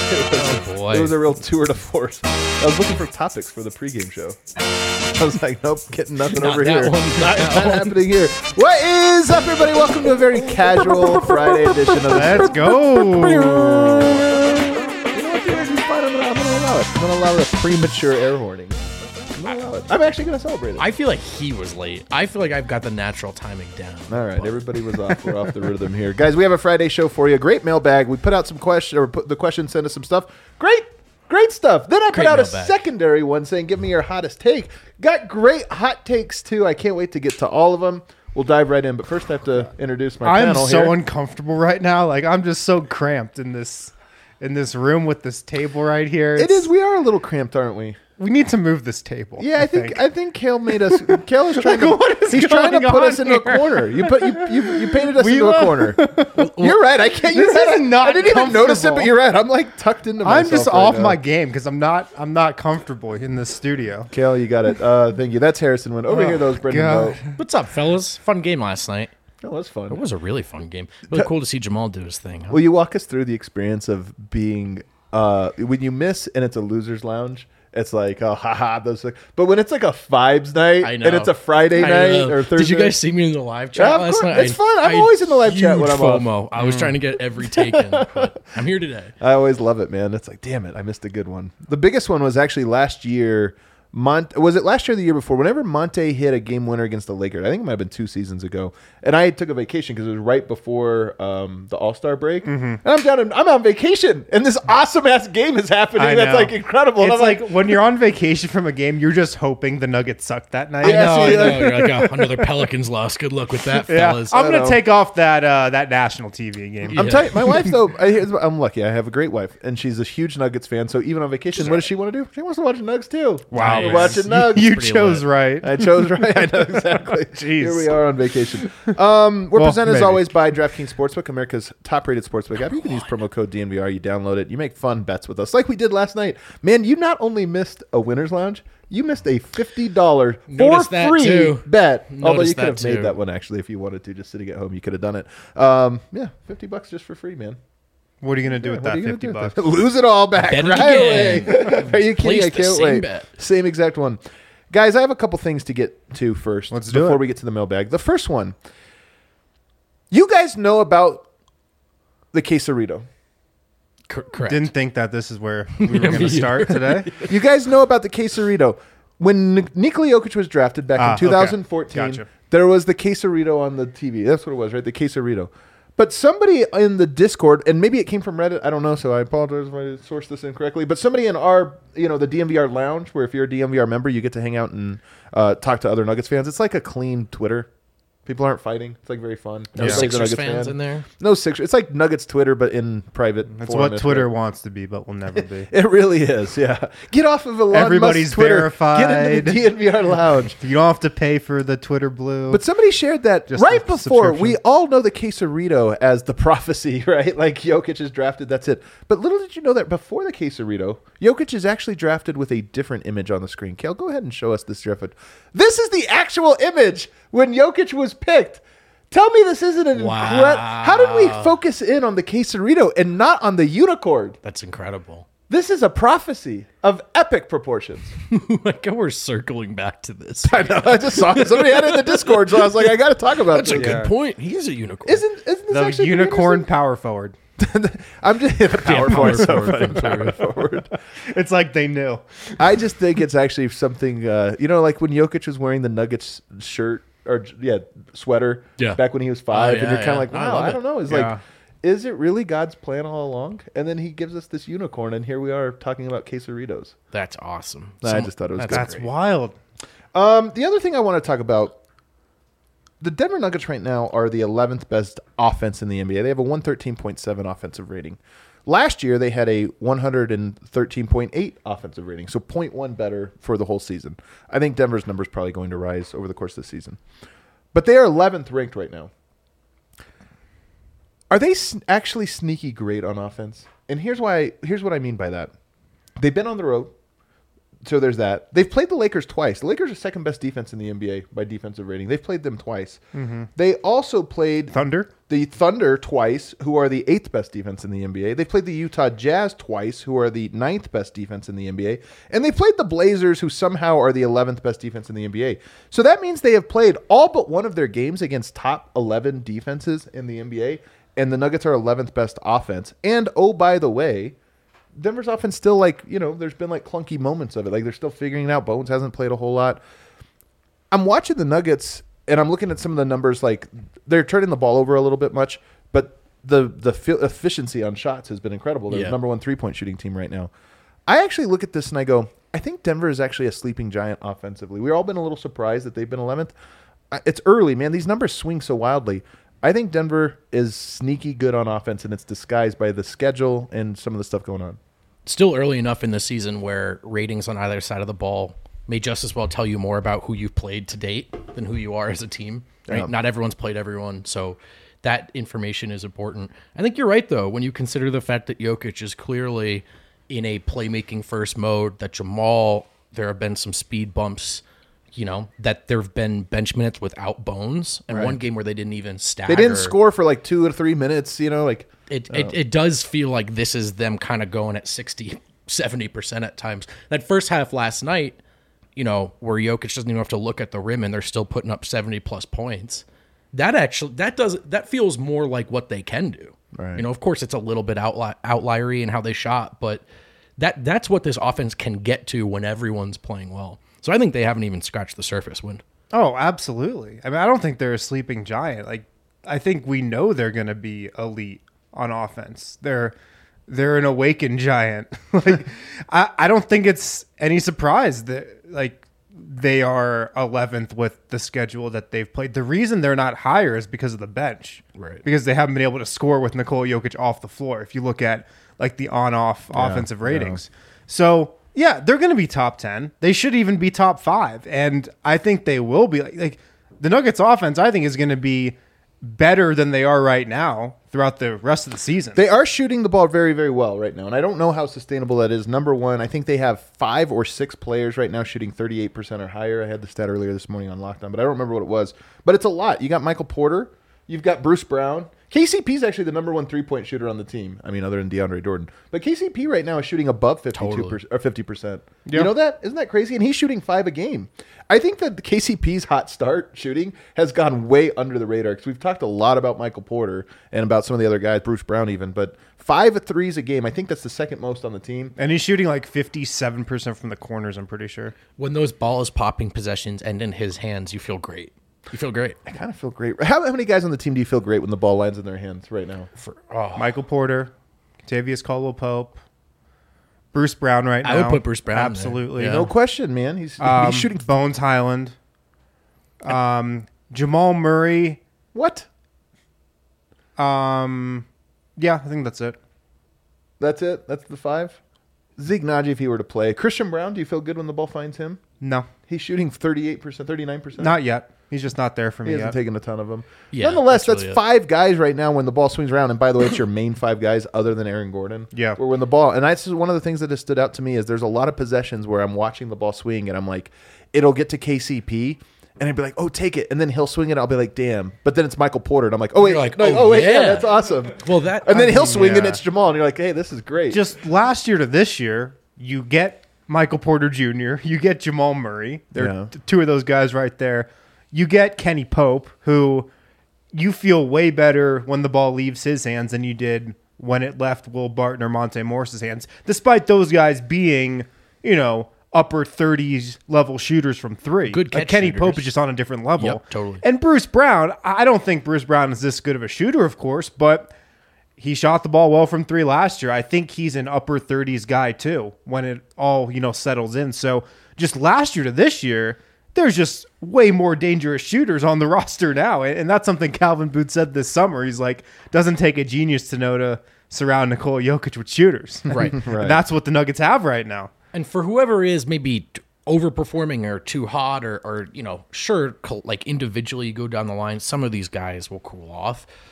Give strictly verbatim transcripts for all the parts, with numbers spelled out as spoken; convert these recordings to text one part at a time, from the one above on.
Oh, boy. It was a real tour de force. I was looking for topics for the pregame show. I was like, nope, getting nothing Not over that here. one, Not, not that not one. happening here. What is up, everybody? Welcome to a very casual Friday edition of the Let's go. You know what, dude? It's fine. I'm gonna, I'm gonna allow it. I'm gonna allow the premature air horning. I'm gonna allow it. I'm actually gonna celebrate it. I feel like he was late. I feel like I've got the natural timing down. All right, everybody was off. We're off the rhythm here, guys. We have a Friday show for you. Great mailbag. We put out some questions, or put the questions sent us some stuff. Great, great stuff. Then I put Great out a mailbag. secondary one saying, "Give me your hottest take." Got great hot takes too. I can't wait to get to all of them. We'll dive right in, but first I have to introduce my I'm panel so here. uncomfortable right now. Like I'm just so cramped in this in this room with this table right here. It It's- is. We are a little cramped, aren't we? We need to move this table. Yeah, I, think, I think Kale made us. Kale is trying to. what is he's trying to going put on us into a here? corner. You put you you, you painted us We into a will- corner. You're right. I can't. You're This right. is not I didn't even notice it, but comfortable. you're right. I'm like tucked into myself. I'm just right off now. my game because I'm not I'm not comfortable in this studio. Kale, you got it. Uh, thank you. That's Harrison Wynn. Over Oh, here, those Brendan God. Vogt. What's up, fellas? Fun game last night. Oh, that's fun. It was a really fun game. Really cool to see Jamal do his thing. Huh? Will you walk us through the experience of being uh, when you miss and it's a losers lounge? It's like, oh, haha, those. But when it's like a vibes night I know. and it's a Friday I night know. or Thursday, Did you guys see me in the live chat Yeah, of last course. night? It's fun. I'm always in the live chat when huge I'm off. FOMO. I was trying to get every take in, but I'm here today. I always love it, man. It's like, damn it, I missed a good one. The biggest one was actually last year. Mont was it last year or the year before? Whenever Monte hit a game winner against the Lakers, I think it might have been two seasons ago. And I took a vacation because it was right before um, the All Star break. Mm-hmm. And I'm down. In, I'm on vacation, and this awesome ass game is happening. I That's know. like incredible. And It's I'm like, when you're on vacation from a game, you're just hoping the Nuggets suck that night. I Yeah, know, see, I know. like- You're like, oh, another Pelicans loss. Good luck with that, Yeah, fellas. I'm I gonna know. take off that uh, that national T V game. I'm Yeah. telling you, my wife though. I, here's what- I'm lucky. I have a great wife, and she's a huge Nuggets fan. So even on vacation, what does she want to do? She wants to watch the Nuggets too. Wow, We're man. watching Nuggets. You pretty chose lit. right. I chose right. I know exactly. Jeez. Here we are on vacation. Um, we're Well, presented as maybe. always by DraftKings Sportsbook, America's top-rated sportsbook app. You can use promo code D N V R. You download it. You make fun bets with us, like we did last night. Man, you not only missed a winners lounge, you missed a fifty dollars for Noticed that, free too. bet. Although Noticed you could have that, made too. that one actually if you wanted to, just sitting at home. You could have done it. Um, yeah, fifty bucks just for free, man. What are you gonna do with What are that you gonna fifty do with bucks? that? Lose it all back Bet it right again. away. Are you kidding? Place I the can't same wait. bet. Same exact one. Guys, I have a couple things to get to first Let's do before it. we get to the mailbag. The first one. You guys know about the quesarito. Cor- correct. Didn't think that this is where we were gonna start today. You guys know about the quesarito. When Nik- Nikola Jokic was drafted back Ah, in okay. two thousand fourteen, Gotcha. there was the quesarito on the T V. That's what it was, right? The quesarito. But somebody in the Discord, and maybe it came from Reddit, I don't know, so I apologize if I sourced this incorrectly, but somebody in our, you know, the D M V R lounge, where if you're a D M V R member, you get to hang out and uh, talk to other Nuggets fans. It's like a clean Twitter. People aren't fighting. It's like very fun. no Everybody's a Sixers Nuggets fans fan. in there. No Sixers. It's like Nuggets Twitter, but in private. That's forum, what if Twitter right. wants to be, but will never be. It really is, yeah. Get off of Elon Everybody's Musk's Twitter. verified. Get into the D N V R lounge. You don't have to pay for the Twitter Blue. But somebody shared that Just right a before. subscription. We all know the quesarito as the prophecy, right? Like Jokic is drafted, that's it. But little did you know that before the quesarito, Jokic is actually drafted with a different image on the screen. Kale, go ahead and show us this draft. This is the actual image when Jokic was picked. Tell me this isn't an Wow. incredible. How did we focus in on the quesarito and not on the unicorn? That's incredible. This is a prophecy of epic proportions. Like we're circling back to this. I know. I just saw it. Somebody had it in the Discord, so I was like, I got to talk about That's a this. good point. He is a unicorn. Isn't isn't this the actually pretty unicorn interesting? power forward. I'm just the power Yeah, forward. power So forward. funny, power forward. It's like they knew. I just think it's actually something. Uh, you know, like when Jokic was wearing the Nuggets shirt or yeah sweater. Yeah. Back when he was five, Oh, and yeah, you're kind yeah. of like, I wow, love I, it. don't know. It's Yeah. like, is it really God's plan all along? And then he gives us this unicorn, and here we are talking about quesaritos. That's awesome. I Some- just thought it was that's good. That's great. wild. Um, the other thing I want to talk about. The Denver Nuggets right now are the eleventh best offense in the N B A. They have a one thirteen point seven offensive rating. Last year, they had a one thirteen point eight offensive rating, so zero point one better for the whole season. I think Denver's number is probably going to rise over the course of the season. But they are eleventh ranked right now. Are they s- actually sneaky great on offense? And here's why. Here's what I mean by that. They've been on the road. so there's that. They've played the Lakers twice. The Lakers are second best defense in the N B A by defensive rating. They've played them twice. Mm-hmm. They also played Thunder? the Thunder twice, who are the eighth best defense in the N B A. They played the Utah Jazz twice, who are the ninth best defense in the N B A. And they played the Blazers, who somehow are the eleventh best defense in the N B A. So that means they have played all but one of their games against top eleven defenses in the N B A. And the Nuggets are eleventh best offense. And, oh, by the way, Denver's offense still, like, you know, there's been, like, clunky moments of it. Like, they're still figuring it out. Bones hasn't played a whole lot. I'm watching the Nuggets, and I'm looking at some of the numbers. Like, they're turning the ball over a little bit much, but the the fi- efficiency on shots has been incredible. They're Yeah. the number one three-point shooting team right now. I actually look at this and I go, I think Denver is actually a sleeping giant offensively. We've all been a little surprised that they've been eleventh. I- It's early, man. These numbers swing so wildly. I think Denver is sneaky good on offense, and it's disguised by the schedule and some of the stuff going on. Still early enough in the season where ratings on either side of the ball may just as well tell you more about who you've played to date than who you are as a team. Right? Yeah. Not everyone's played everyone, so that information is important. I think you're right, though, when you consider the fact that Jokic is clearly in a playmaking first mode, that Jamal, there have been some speed bumps, you know, that there have been bench minutes without Bones, and Right. one game where they didn't even stagger. They didn't score for like two or three minutes, you know, like It, it it does feel like this is them kind of going at sixty, seventy percent at times. That first half last night, you know, where Jokic doesn't even have to look at the rim and they're still putting up seventy plus points. That actually that does that feels more like what they can do. Right. You know, of course it's a little bit outli- outliery in how they shot, but that that's what this offense can get to when everyone's playing well. So I think they haven't even scratched the surface. When Oh, absolutely. I mean, I don't think they're a sleeping giant. Like, I think we know they're going to be elite on offense. They're they're an awakened giant. Like, I, I don't think it's any surprise that, like, they are eleventh with the schedule that they've played. The reason they're not higher is because of the bench. Right. Because they haven't been able to score with Nikola Jokic off the floor. If you look at, like, the on-off Yeah, offensive yeah. ratings. So, yeah, they're going to be top ten. They should even be top five. And I think they will be. Like, like the Nuggets offense, I think, is going to be better than they are right now throughout the rest of the season. They are shooting the ball very, very well right now, and I don't know how sustainable that is. Number one, I think they have five or six players right now shooting thirty-eight percent or higher. I had the stat earlier this morning on Lockdown, but I don't remember what it was. But it's a lot. You got Michael Porter. You've got Bruce Brown. K C P is actually the number one three-point shooter on the team. I mean, other than DeAndre Jordan. But K C P right now is shooting above fifty-two percent or fifty percent. Yeah. You know that? Isn't that crazy? And he's shooting five a game. I think that the K C P's hot start shooting has gone way under the radar because we've talked a lot about Michael Porter and about some of the other guys, Bruce Brown even. But five threes a game, I think that's the second most on the team. And he's shooting like fifty-seven percent from the corners, I'm pretty sure. when those balls popping possessions end in his hands, you feel great. You feel great. I kind of feel great. How, how many guys on the team do you feel great when the ball lands in their hands right now? For, oh. Michael Porter, Tavius Caldwell-Pope, Bruce Brown right now. I would put Bruce Brown there. Absolutely. Yeah. No question, man. He's, Um, he's shooting. Bones Highland. Um, Jamal Murray. What? Um, yeah, I think that's it. That's it? That's the five? Zeke Naji, if he were to play. Christian Brown, do you feel good when the ball finds him? No, He's shooting thirty-eight percent, thirty-nine percent. not yet. He's just not there for He me hasn't yet. taken a ton of them. Yeah, Nonetheless, that's that's, really it. five guys right now when the ball swings around. And by the way, it's your main five guys other than Aaron Gordon. Yeah. Where when the ball, and that's just one of the things that has stood out to me is there's a lot of possessions where I'm watching the ball swing and I'm like, it'll get to K C P and I'd be like, oh, take it. And then he'll swing it. I'll be like, damn. But then it's Michael Porter. And I'm like, oh, wait. You're like, no, oh, oh, wait. Yeah. yeah. that's awesome. Well, that And then I he'll mean, swing and yeah. it's Jamal. And you're like, hey, this is great. Just last year to this year, you get Michael Porter Junior You get Jamal Murray. They're Yeah. t- two of those guys right there. You get Kenny Pope, who you feel way better when the ball leaves his hands than you did when it left Will Barton or Monte Morris's hands, despite those guys being, you know, upper thirties level shooters from three. Good Like catch Kenny shooters. Pope is just on a different level. Yep, totally. And Bruce Brown, I don't think Bruce Brown is this good of a shooter, of course, but he shot the ball well from three last year. I think he's an upper thirties guy too when it all, you know, settles in. So just last year to this year, there's just way more dangerous shooters on the roster now. And and that's something Calvin Booth said this summer. He's like, doesn't take a genius to know to surround Nikola Jokic with shooters. Right. And Right. that's what the Nuggets have right now. And for whoever is maybe t- overperforming or too hot or, or you know, sure, col- like individually you go down the line, some of these guys will cool off.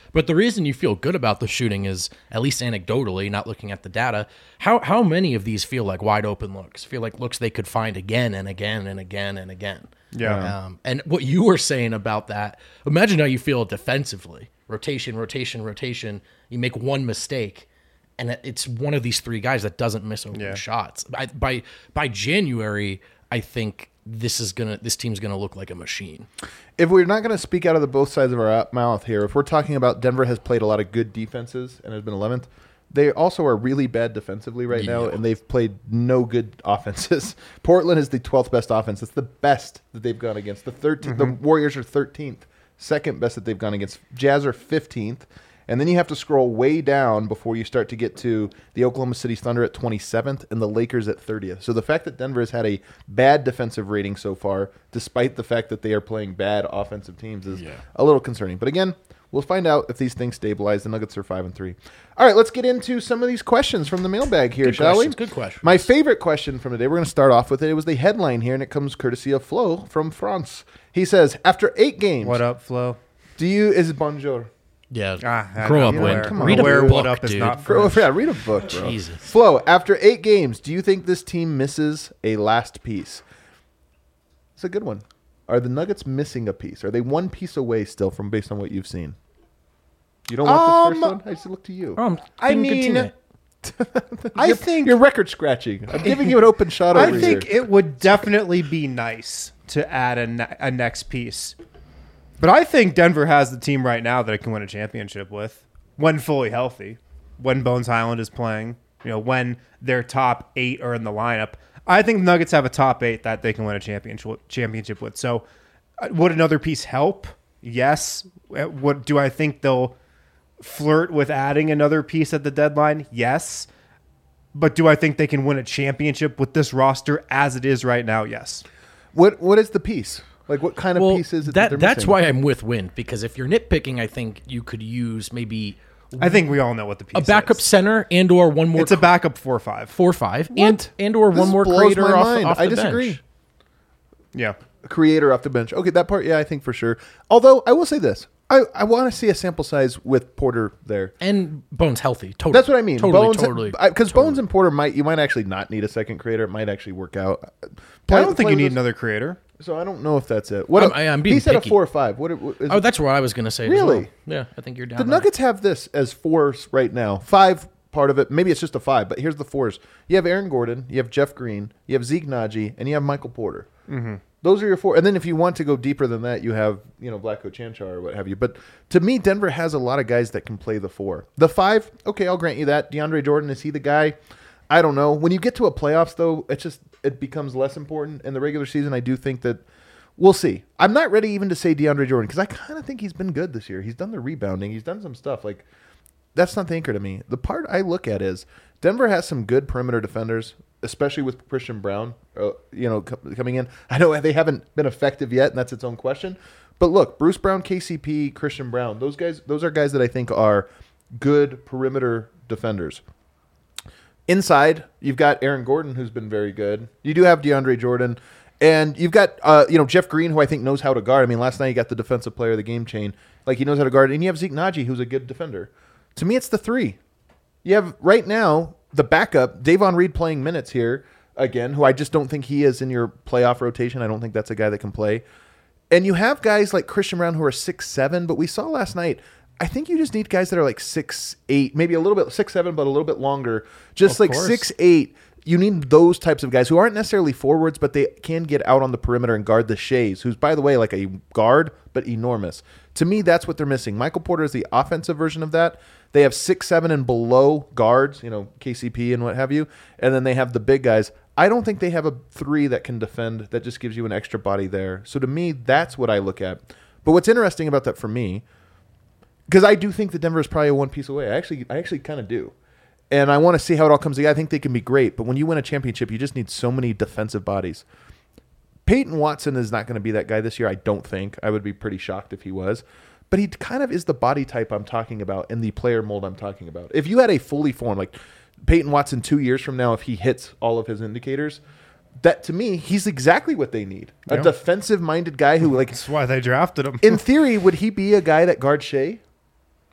But the reason you feel good about the shooting is, at least anecdotally, not looking at the data, how how many of these feel like wide open looks? Feel like looks they could find again and again and again and again. Yeah. Um, and what you were saying about that, imagine how you feel defensively. Rotation, rotation, rotation. You make one mistake, and it's one of these three guys that doesn't miss open Yeah. shots. By, by by January, I think this is gonna this team's gonna look like a machine. If we're not going to speak out of the both sides of our mouth here, if we're talking about Denver has played a lot of good defenses and has been eleventh, they also are really bad defensively right now, Yeah. and they've played no good offenses. Portland is the twelfth best offense. It's the best that they've gone against. The thirteenth, Mm-hmm. the Warriors are thirteenth, second best that they've gone against. Jazz are fifteenth. And then you have to scroll way down before you start to get to the Oklahoma City Thunder at twenty-seventh and the Lakers at thirtieth. So the fact that Denver has had a bad defensive rating so far, despite the fact that they are playing bad offensive teams, is Yeah. a little concerning. But again, we'll find out if these things stabilize. The Nuggets are five and three. All right, let's get into some of these questions from the mailbag here, Good shall questions, we? good questions. My favorite question from today, we're going to start off with it. It was the headline here, and it comes courtesy of Flo from France. He says, after eight games, What up, Flo? do you, is bonjour? Yeah, Ah, grow I- up, I'm Win. aware. Come on, Read a Aware book, what up is dude. not Bro, French. yeah, read a book, bro. Jesus. Flo, after eight games, do you think this team misses a last piece? It's a good one. Are the Nuggets missing a piece? Are they one piece away still from based on what you've seen? You don't want Um, this first one? I just look to you. Oh, I'm I being a good mean, teammate. I You're- think you're record scratching. I'm giving you an open shot over I think here. it would definitely be nice to add a, ne- a next piece. But I think Denver has the team right now that it can win a championship with when fully healthy, when Bones Highland is playing, you know, when their top eight are in the lineup. I think the Nuggets have a top eight that they can win a championship championship with. So uh, would another piece help? Yes. Uh, What do I think they'll flirt with adding another piece at the deadline? Yes. But do I think they can win a championship with this roster as it is right now? Yes. What What is the piece? Like, what kind of Well, piece is it? that, they're that's missing? why I'm with Win, because if you're nitpicking, I think you could use maybe I think we all know what the piece a backup is. center and or one more It's a backup four or five. four five What? and and or This one more blows creator my off, mind. off the I disagree. bench. Yeah. A creator off the bench. Okay, that part, yeah, I think for sure. Although I will say this, I, I want to see a sample size with Porter there. And Bones healthy. Totally. That's what I mean. Totally, Bones, totally. Because totally. Bones and Porter might you might actually not need a second creator. It might actually work out. I Play- don't think play you with need us. another creator. So I don't know if that's it. What I'm- a- I'm being he said picky. a four or five. What, what is Oh, it? that's what I was going to say. as Really? well. Yeah, I think you're down. The there. Nuggets have this as fours right now. Five part of it. Maybe it's just a five, but here's the fours. You have Aaron Gordon, you have Jeff Green, you have Zeke Naji, and you have Michael Porter. Mm-hmm. Those are your four. And then if you want to go deeper than that, you have, you know, Vlatko Chanchar or what have you. But to me, Denver has a lot of guys that can play the four. The five, okay, I'll grant you that. DeAndre Jordan, is he the guy? I don't know. When you get to a playoffs, though, it just it becomes less important. In the regular season, I do think that we'll see. I'm not ready even to say DeAndre Jordan because I kind of think he's been good this year. He's done the rebounding. He's done some stuff. Like, that's not the anchor to me. The part I look at is Denver has some good perimeter defenders, especially with Christian Brown, uh, you know, co- coming in. I know they haven't been effective yet, and that's its own question. But look, Bruce Brown, K C P, Christian Brown, those guys, those are guys that I think are good perimeter defenders. Inside, you've got Aaron Gordon, who's been very good. You do have DeAndre Jordan, and you've got uh, you know Jeff Green, who I think knows how to guard. I mean, last night he got the defensive player of the game chain, like he knows how to guard. And you have Zeke Naji, who's a good defender. To me, it's the three. You have right now the backup, Davon Reed playing minutes here again, who I just don't think he is in your playoff rotation. I don't think that's a guy that can play. And you have guys like Christian Brown who are six seven, but we saw last night. I think you just need guys that are like six eight, maybe a little bit six seven, but a little bit longer. Just Of like course. six eight. You need those types of guys who aren't necessarily forwards, but they can get out on the perimeter and guard the Shays, who's, by the way, like a guard, but enormous. To me, that's what they're missing. Michael Porter is the offensive version of that. They have six seven and below guards, you know, K C P and what have you, and then they have the big guys. I don't think they have a three that can defend that just gives you an extra body there. So to me, that's what I look at. But what's interesting about that for me, because I do think that Denver is probably a one piece away. I actually, I actually kind of do. And I want to see how it all comes together. I think they can be great. But when you win a championship, you just need so many defensive bodies. Peyton Watson is not going to be that guy this year, I don't think. I would be pretty shocked if he was. But he kind of is the body type I'm talking about and the player mold I'm talking about. If you had a fully formed, like Peyton Watson two years from now, if he hits all of his indicators, that to me, he's exactly what they need. A Yeah. defensive-minded guy who, like, That's why they drafted him. in theory, would he be a guy that guards Shea?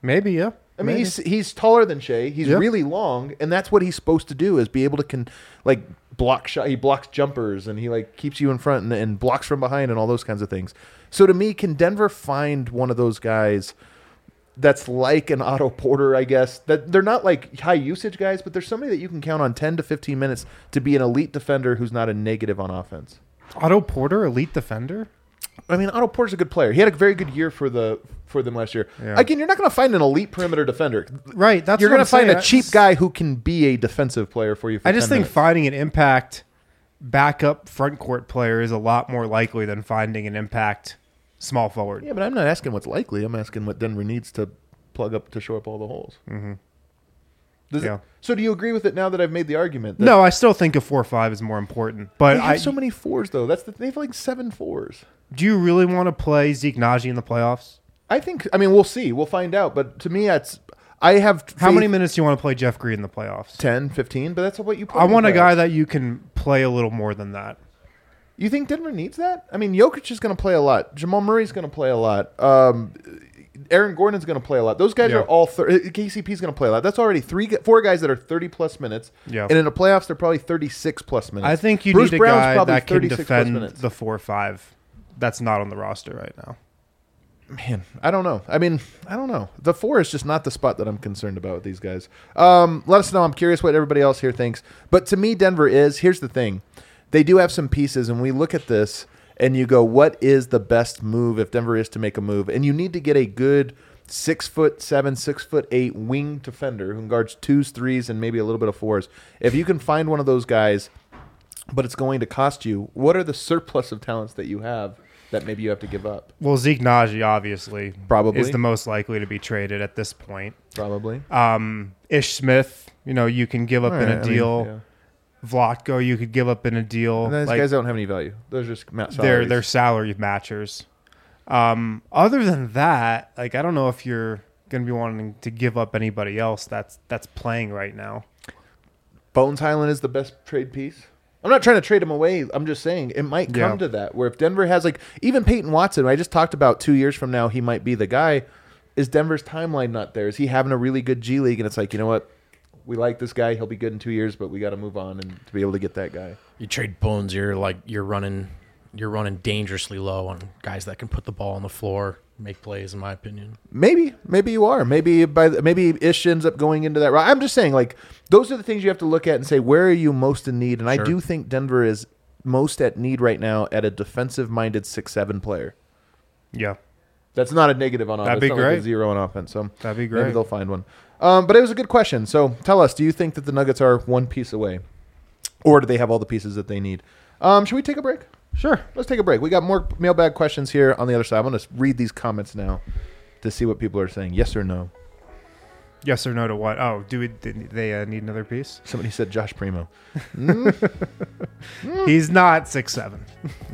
Maybe, yeah. I mean, Maybe. he's he's taller than Shea. He's Yep. really long, and that's what he's supposed to do is be able to can like block shot. He blocks jumpers, and he like keeps you in front and, and blocks from behind, and all those kinds of things. So to me, can Denver find one of those guys that's like an Otto Porter? I guess that they're not like high usage guys, but there's somebody that you can count on ten to fifteen minutes to be an elite defender who's not a negative on offense. Otto Porter, elite defender? I mean, Otto Porter's a good player. He had a very good year for the for them last year. Yeah. Again, you're not going to find an elite perimeter defender. Right. That's You're going going to to find a That's- cheap guy who can be a defensive player for you. For I just ten think minutes. finding an impact backup front court player is a lot more likely than finding an impact small forward. Yeah, but I'm not asking what's likely. I'm asking what Denver needs to plug up to shore up all the holes. Mm-hmm. Does Yeah. it, so do you agree with it now that I've made the argument? That No, I still think a four five is more important. But they have I, so many fours though. That's the, they have like seven fours. do you really want to play Zeke Naji in the playoffs? I think. I mean, we'll see. We'll find out. But to me, that's. I have. How faith- many minutes do you want to play Jeff Green in the playoffs? ten, fifteen, but that's what you. Play I in the want a playoffs. guy that you can play a little more than that. You think Denver needs that? I mean, Jokic is going to play a lot. Jamal Murray's going to play a lot. Um, Aaron Gordon's going to play a lot. Those guys Yeah. are all. Thir- K C P's going to play a lot. That's already three, four guys that are thirty plus minutes. Yeah. And in the playoffs, they're probably thirty-six plus minutes. I think you Bruce need a Brown's guy probably that can thirty-six plus defend minutes. the four five. That's not on the roster right now. Man, I don't know. I mean, I don't know. The four is just not the spot that I'm concerned about with these guys. Um, let us know. I'm curious what everybody else here thinks. But to me, Denver is. Here's the thing. They do have some pieces, and we look at this, and you go, what is the best move if Denver is to make a move? And you need to get a good six foot seven, six foot eight wing defender who guards twos, threes, and maybe a little bit of fours. If you can find one of those guys, but it's going to cost you, what are the surplus of talents that you have that maybe you have to give up? Well, Zeke Naji obviously Probably. is the most likely to be traded at this point. Probably. Um, Ish Smith, you know, you can give up All in right, a I mean, deal. yeah. Vlatko, you could give up in a deal. And those Like, guys don't have any value. Those are just ma- they're salaries. they're salary matchers. Um, other than that, like I don't know if you're going to be wanting to give up anybody else that's that's playing right now. Bones Highland is the best trade piece. I'm not trying to trade him away. I'm just saying it might come Yeah. to that where if Denver has like even Peyton Watson, I just talked about two years from now he might be the guy. Is Denver's timeline not there? Is he having a really good G League and it's like, you know what? We like this guy. He'll be good in two years, but we got to move on and to be able to get that guy. You trade Bones, you're like you're running, you're running dangerously low on guys that can put the ball on the floor, make plays. In my opinion, Maybe, maybe you are. Maybe by the, maybe Ish ends up going into that. route. I'm just saying, like those are the things you have to look at and say where are you most in need. And I Sure. do think Denver is most at need right now at a defensive-minded six seven player. Yeah, That's not a negative on offense. That'd be It's not like a great. zero on offense. So that'd be maybe great. they'll find one. Um, but it was a good question. So tell us, do you think that the Nuggets are one piece away, or do they have all the pieces that they need? Um, should we take a break? Sure. Let's take a break. We got more mailbag questions here on the other side. I'm going to read these comments now to see what people are saying. Yes or no? Yes or no to what? Oh, do we, did they uh, need another piece? Somebody said Josh Primo. He's not six seven.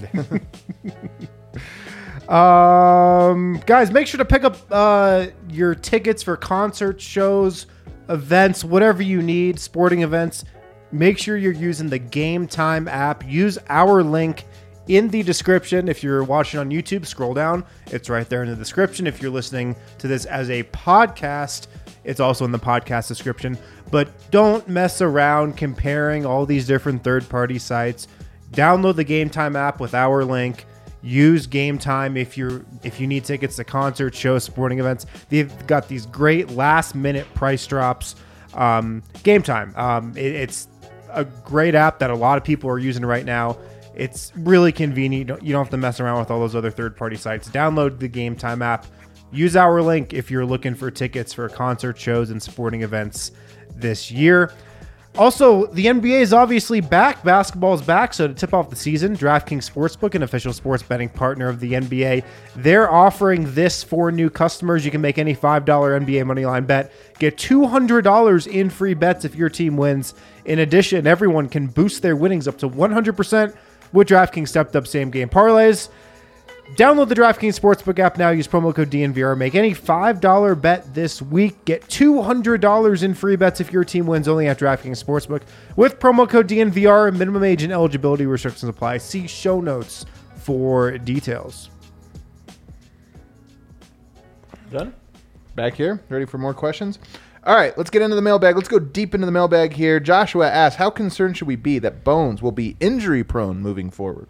um, guys, make sure to pick up uh, your tickets for concerts, shows, events, whatever you need, sporting events. Make sure you're using the Game Time app. Use our link in the description. If you're watching on YouTube, scroll down. It's right there in the description. If you're listening to this as a podcast, it's also in the podcast description. But don't mess around comparing all these different third-party sites. Download the Game Time app with our link. Use Game Time if you're if you need tickets to concerts, shows, sporting events. They've got these great last-minute price drops. Um, Game Time. Um, it, it's a great app that a lot of people are using right now. It's really convenient. You don't, you don't have to mess around with all those other third-party sites. Download the Game Time app. Use our link if you're looking for tickets for concert shows and sporting events this year. Also, the N B A is obviously back. Basketball is back. So to tip off the season, DraftKings Sportsbook, an official sports betting partner of the N B A, they're offering this for new customers. You can make any five dollar N B A moneyline bet. Get two hundred dollars in free bets if your team wins. In addition, everyone can boost their winnings up to one hundred percent with DraftKings stepped up same game parlays. Download the DraftKings Sportsbook app now. Use promo code D N V R. Make any five dollar bet this week. Get two hundred dollars in free bets if your team wins only at DraftKings Sportsbook. With promo code D N V R, minimum age and eligibility restrictions apply. See show notes for details. Done? back here, ready for more questions. All right, let's get into the mailbag. Let's go deep into the mailbag here. Joshua asks, how concerned should we be that Bones will be injury-prone moving forward?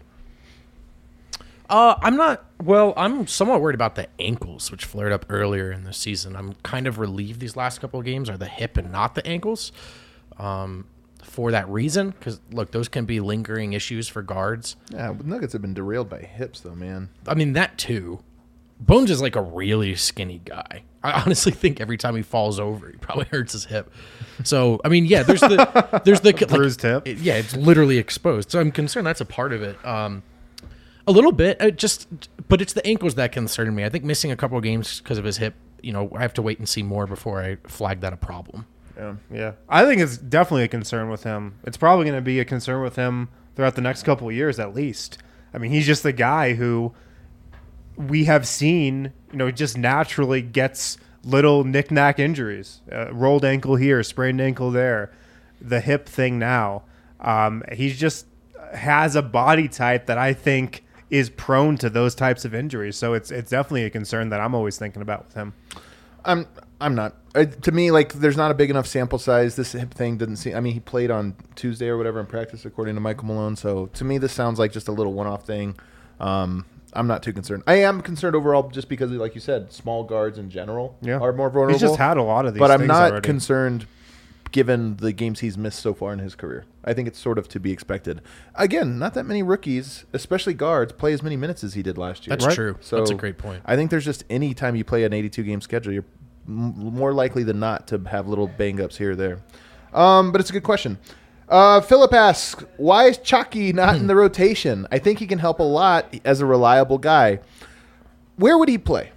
Uh, I'm not. Well, I'm somewhat worried about the ankles, which flared up earlier in the season. I'm kind of relieved these last couple of games are the hip and not the ankles. Um, for that reason, because look, those can be lingering issues for guards. Yeah, but Nuggets have been derailed by hips, though, man. I mean that too. Bones is like a really skinny guy. I honestly think every time he falls over, he probably hurts his hip. So I mean, yeah, there's the there's the bruised like, hip. it- yeah, it's literally exposed. So I'm concerned that's a part of it. Um, a little bit, uh, just, but it's the ankles that concern me. I think missing a couple of games because of his hip. You know, I have to wait and see more before I flag that a problem. Yeah, yeah. I think it's definitely a concern with him. It's probably going to be a concern with him throughout the next couple of years, at least. I mean, he's just the guy who we have seen, you know, just naturally gets little knick-knack injuries. Uh, rolled ankle here, sprained ankle there, the hip thing now. Um, he's just has a body type that I think is prone to those types of injuries. So it's it's definitely a concern that I'm always thinking about with him. I'm I'm not. Uh, to me, like, there's not a big enough sample size. This hip thing didn't seem. I mean, he played on Tuesday or whatever in practice, according to Michael Malone. So to me, this sounds like just a little one-off thing. Um, I'm not too concerned. I am concerned overall, just because, like you said, small guards in general Yeah. are more vulnerable. He's just had a lot of these. but I'm things not already. concerned, given the games he's missed so far in his career. I think it's sort of to be expected. Again, not that many rookies, especially guards, play as many minutes as he did last year. That's Right. true. So That's a great point. I think there's just any time you play an eighty-two game schedule, you're m- more likely than not to have little bang-ups here or there. Um, but it's a good question. Uh, Philip asks, why is Chalky not in the rotation? I think he can help a lot as a reliable guy. Where would he play?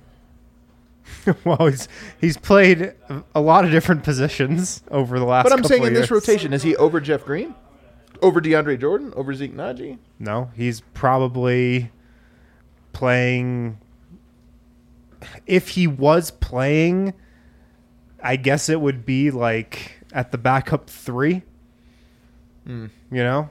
Well, he's he's played a lot of different positions over the last. But I'm couple saying of in this years. rotation, is he over Jeff Green? Over DeAndre Jordan? Over Zeke Naji? No, he's probably playing. If he was playing, I guess it would be like at the backup three. Hmm. You know,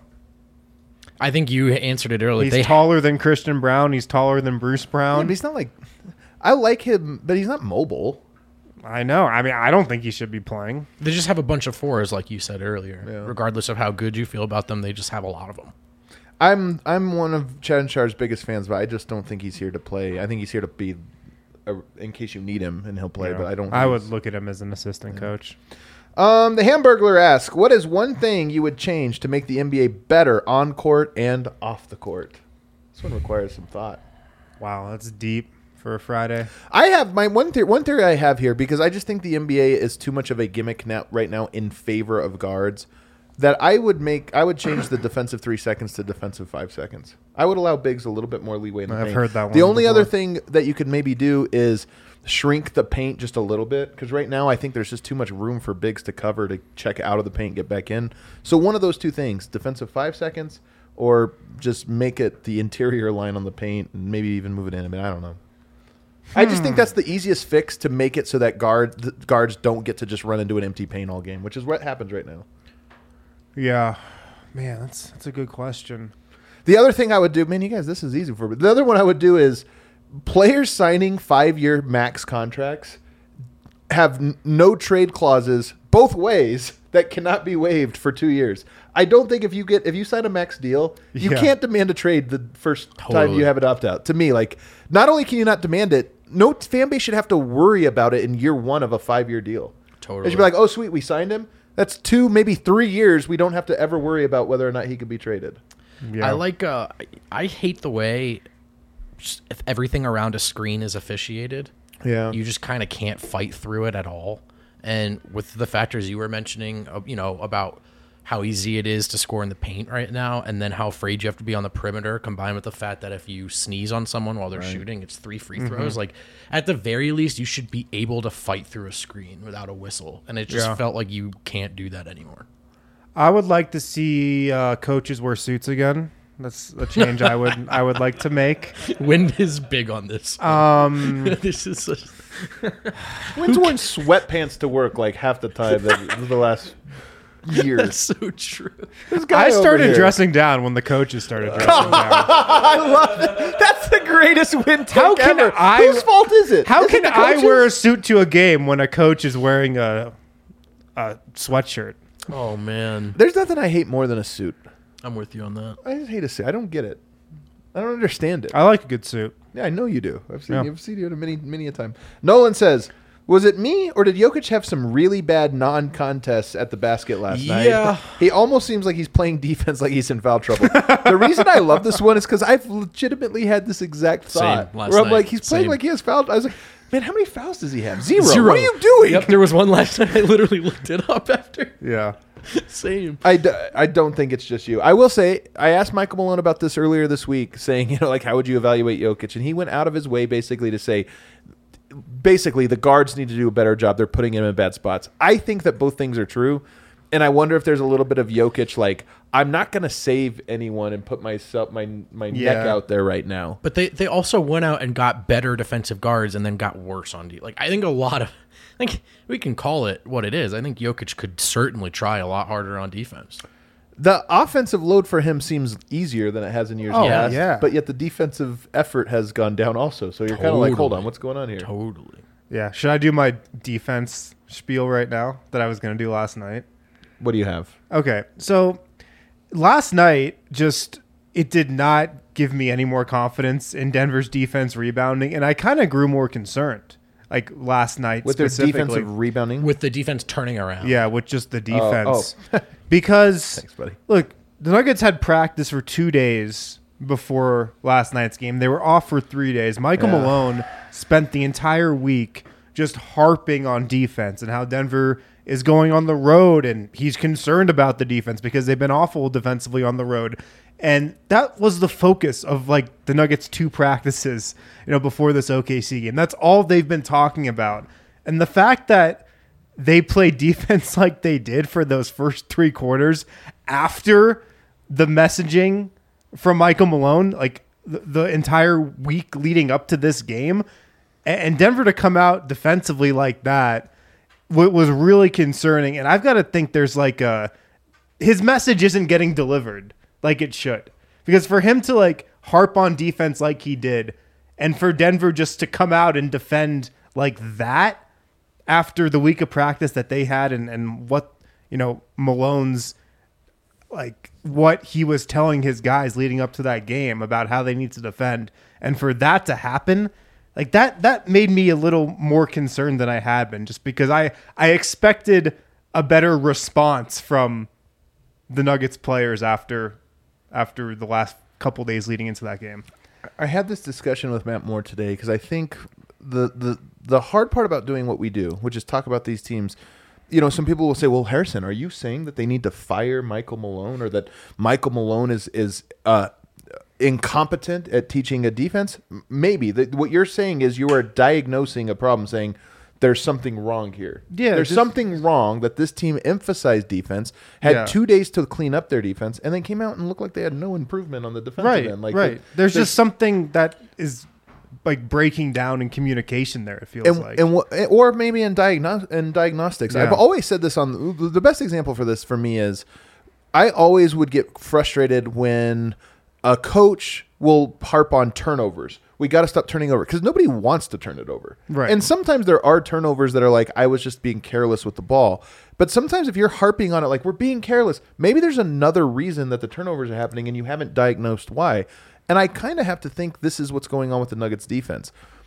I think you answered it earlier. he's They taller than Christian Brown. He's taller than Bruce Yeah, Brown. but he's not like... I like him, but he's not mobile. I know. I mean, I don't think he should be playing. They just have a bunch of fours, like you said earlier. Yeah. Regardless of how good you feel about them, they just have a lot of them. I'm I'm one of Chad Shar's biggest fans, but I just don't think he's here to play. I think he's here to be, a, in case you need him, and he'll play. You know, But I don't. I think would he's- look at him as an assistant coach. Um, the Hamburglar asks, "What is one thing you would change to make the N B A better on court and off the court?" This one requires some thought. Wow, that's deep for a Friday. I have my one theory. One theory I have here, because I just think the N B A is too much of a gimmick now, right now in favor of guards. That I would make. I would change the defensive three seconds to defensive five seconds. I would allow bigs a little bit more leeway in the I've paint. heard that The one only before. other thing that you could maybe do is shrink the paint just a little bit, because right now I think there's just too much room for bigs to cover to check out of the paint, get back in. So one of those two things: defensive five seconds, or just make it the interior line on the paint and maybe even move it in. I mean, I don't know. I just think that's the easiest fix to make it so that guard the guards don't get to just run into an empty paint all game, which is what happens right now. Yeah, man, that's that's a good question. The other thing I would do, man, you guys, this is easy for me. The other one I would do is players signing five-year max contracts have n- no trade clauses both ways that cannot be waived for two years. I don't think if you get if you sign a max deal, you Yeah. can't demand a trade the first time Totally. you have it opt out. To me, like, not only can you not demand it, no fan base should have to worry about it in year one of a five-year deal. Totally. They should be like, oh, sweet, we signed him. That's two, maybe three years. We don't have to ever worry about whether or not he could be traded. Yeah. I like. Uh, I- I hate the way just if everything around a screen is officiated. Yeah. You just kind of can't fight through it at all. And with the factors you were mentioning, uh, you know, about how easy it is to score in the paint right now, and then how afraid you have to be on the perimeter, combined with the fact that if you sneeze on someone while they're shooting, it's three free throws. Mm-hmm. Like, at the very least, you should be able to fight through a screen without a whistle. And it just Yeah. felt like you can't do that anymore. I would like to see uh, coaches wear suits again. That's a change I would I would like to make. Wind is big on this. Um, this is such, Wynn's worn sweatpants to work like half the time that the last years. So true. This guy I over started here. dressing down when the coaches started dressing down. I love that. That's the greatest win take How can ever. I- Whose fault is it? How Is can it the I coaches? wear a suit to a game when a coach is wearing a a sweatshirt? Oh man, There's nothing I hate more than a suit. I'm with you on that. I just hate a suit. I don't get it. I don't understand it. I like a good suit. Yeah, I know you do. I've seen Yeah. you. I've seen you many, many a time. Nolan says, "Was it me or did Jokic have some really bad non-contests at the basket last night? Yeah. He almost seems like he's playing defense like he's in foul trouble." The reason I love this one is because I've legitimately had this exact Same, thought last where I'm night. like, he's playing Same. like he has foul. I was like, man, how many fouls does he have? Zero. Zero. What are you doing? Yep, there was one last night. I literally looked it up after. Yeah. Same. I, d- I don't think it's just you. I will say, I asked Michael Malone about this earlier this week, saying, you know, like, how would you evaluate Jokic? And he went out of his way basically to say, basically, the guards need to do a better job. They're putting him in bad spots. I think that both things are true. And I wonder if there's a little bit of Jokic, like, I'm not going to save anyone and put myself, my my neck Yeah. out there right now. But they, they also went out and got better defensive guards and then got worse on D. Like I think a lot of, I think we can call it what it is. I think Jokic could certainly try a lot harder on defense. The offensive load for him seems easier than it has in years Oh, past. yeah. But yet the defensive effort has gone down also. So you're kind of like, hold Totally. on, what's going on here? Totally. Yeah. Should I do my defense spiel right now that I was going to do last night? What do you have? Okay. So last night, just it did not give me any more confidence in Denver's defense rebounding, and I kind of grew more concerned. Like last night, With their specifically. defensive rebounding? With the defense turning around. Yeah, with just the defense. oh. Because Thanks, buddy. look, the Nuggets had practice for two days before last night's game. They were off for three days. Michael Yeah. Malone spent the entire week just harping on defense and how Denver is going on the road, and he's concerned about the defense because they've been awful defensively on the road. And that was the focus of like the Nuggets' two practices, you know, before this O K C game. That's all they've been talking about. And the fact that they played defense like they did for those first three quarters after the messaging from Michael Malone, like the, the entire week leading up to this game, and, and Denver to come out defensively like that w- was really concerning. And I've got to think there's like a, his message isn't getting delivered like it should, because for him to like harp on defense like he did, and for Denver just to come out and defend like that after the week of practice that they had, and, and what, you know, Malone's like what he was telling his guys leading up to that game about how they need to defend, and for that to happen, like that that made me a little more concerned than I had been, just because I I expected a better response from the Nuggets players after after the last couple days leading into that game. I had this discussion with Matt Moore today because I think the, the the hard part about doing what we do, which is talk about these teams, you know, some people will say, well, Harrison, are you saying that they need to fire Michael Malone, or that Michael Malone is is uh, incompetent at teaching a defense? M- Maybe. The, what you're saying is you are diagnosing a problem, saying there's something wrong here. Yeah, There's just- something wrong that this team emphasized defense, had Yeah. two days to clean up their defense, and then came out and looked like they had no improvement on the defensive Right, end. Like right. the- there's, just something that is like breaking down in communication there, it feels and, like. and wh- or maybe in diagno- in diagnostics. Yeah. I've always said this on the best example for this for me is I always would get frustrated when a coach will harp on turnovers. We got to stop turning over because nobody wants to turn it over. Right. And sometimes there are turnovers that are like, I was just being careless with the ball. But sometimes if you're harping on it, like we're being careless, maybe there's another reason that the turnovers are happening and you haven't diagnosed why. And I kind of have to think this is what's going on with the Nuggets defense.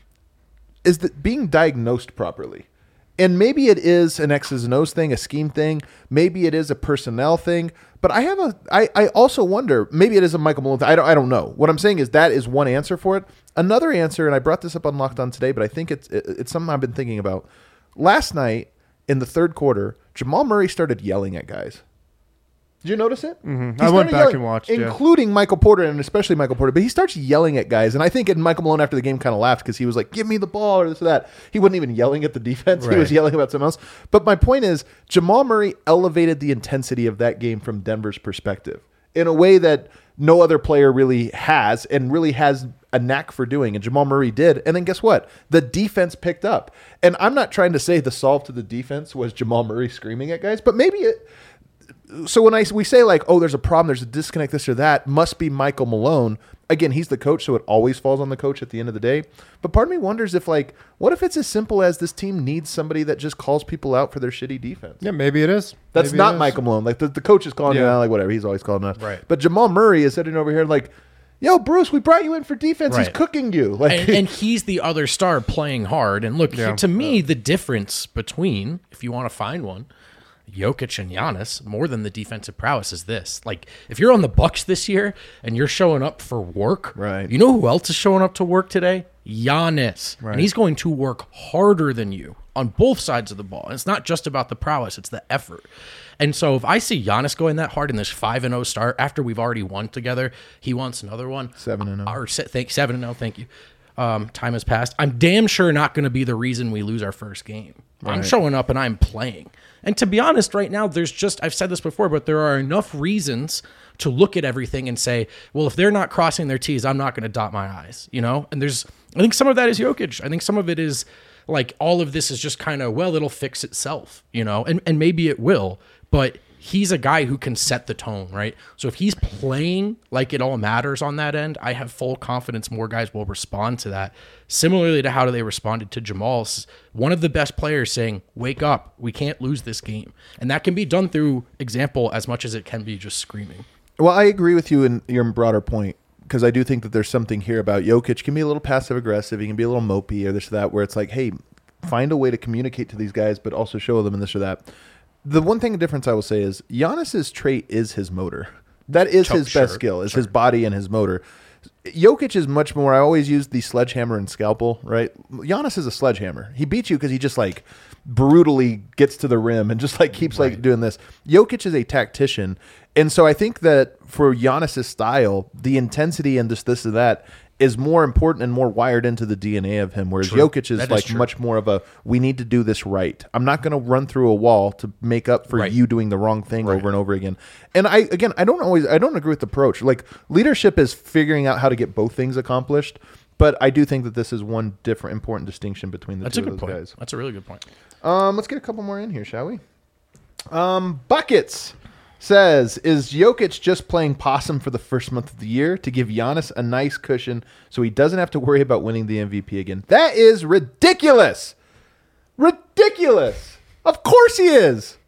Is that being diagnosed properly? And maybe it is an X's and O's thing, a scheme thing. Maybe it is a personnel thing. But I have a. I, I also wonder. Maybe it is a Michael Malone thing. I don't. I don't know. What I'm saying is that is one answer for it. Another answer, and I brought this up on Locked On today, but I think it's it, it's something I've been thinking about. Last night in the third quarter, Jamal Murray started yelling at guys. Did you notice it? Mhm. He I went started back yelling, and watched, yeah. including Michael Porter and especially Michael Porter. But he starts yelling at guys, and I think and Michael Malone after the game kind of laughed because he was like, "Give me the ball" or this or that. He wasn't even yelling at the defense; he was Right. yelling about something else. But my point is, Jamal Murray elevated the intensity of that game from Denver's perspective in a way that no other player really has, and really has a knack for doing. And Jamal Murray did. And then guess what? The defense picked up. And I'm not trying to say the solve to the defense was Jamal Murray screaming at guys, but maybe it. so when I we say like, oh, there's a problem, there's a disconnect, this or that, must be Michael Malone. Again, he's the coach, so it always falls on the coach at the end of the day. But part of me wonders if, like, what if it's as simple as this team needs somebody that just calls people out for their shitty defense? Yeah, maybe it is. That's Maybe not it is. Michael Malone. Like, the, the coach is calling you Yeah. out, like, whatever. He's always calling out. Right. But Jamal Murray is sitting over here like, yo, Bruce, we brought you in for defense. He's Right. cooking you. Like, and, and he's the other star playing hard. And look, Yeah. to me, the difference between, if you want to find one, Jokic and Giannis, more than the defensive prowess, is this. Like, if you're on the Bucks this year and you're showing up for work, Right. you know who else is showing up to work today? Giannis. Right. And he's going to work harder than you on both sides of the ball. And it's not just about the prowess, it's the effort. And so if I see Giannis going that hard in this five and oh start after we've already won together, he wants another one. seven and oh. Or se- thank, seven and oh, thank you. Um, time has passed. I'm damn sure not going to be the reason we lose our first game. I'm showing up and I'm playing. And to be honest, right now, there's just, I've said this before, but there are enough reasons to look at everything and say, well, if they're not crossing their T's, I'm not going to dot my I's, you know? And there's, I think some of that is Jokic. I think some of it is like all of this is just kind of, well, it'll fix itself, you know? And, and maybe it will, but he's a guy who can set the tone, right? So if he's playing like it all matters on that end, I have full confidence more guys will respond to that. Similarly to how they responded to Jamal's, one of the best players saying, wake up, we can't lose this game. And that can be done through example as much as it can be just screaming. well, I agree with you in your broader point, because I do think that there's something here about Jokic can be a little passive aggressive. He can be a little mopey or this or that, where it's like, hey, find a way to communicate to these guys, but also show them and this or that. The one thing difference I will say is Giannis's trait is his motor. That is Sure, his best skill, is his body and his motor. Jokic is much more, I always use the sledgehammer and scalpel, right? Giannis is a sledgehammer. He beats you because he just like brutally gets to the rim and just like keeps like doing this. Jokic is a tactician. And so I think that for Giannis's style, the intensity and this, this and that is more important and more wired into the D N A of him, whereas True. Jokic is That is like true. much more of a, we need to do this right. I'm not going to run through a wall to make up for Right. you doing the wrong thing over and over again. And I, again, I don't always, I don't agree with the approach. Like leadership is figuring out how to get both things accomplished. But I do think that this is one different important distinction between the That's two a good of those point. guys. That's a really good point. Um, let's get a couple more in here, shall we? Um, Buckets says, is Jokic just playing possum for the first month of the year to give Giannis a nice cushion so he doesn't have to worry about winning the M V P again? That is ridiculous. Ridiculous. Of course he is.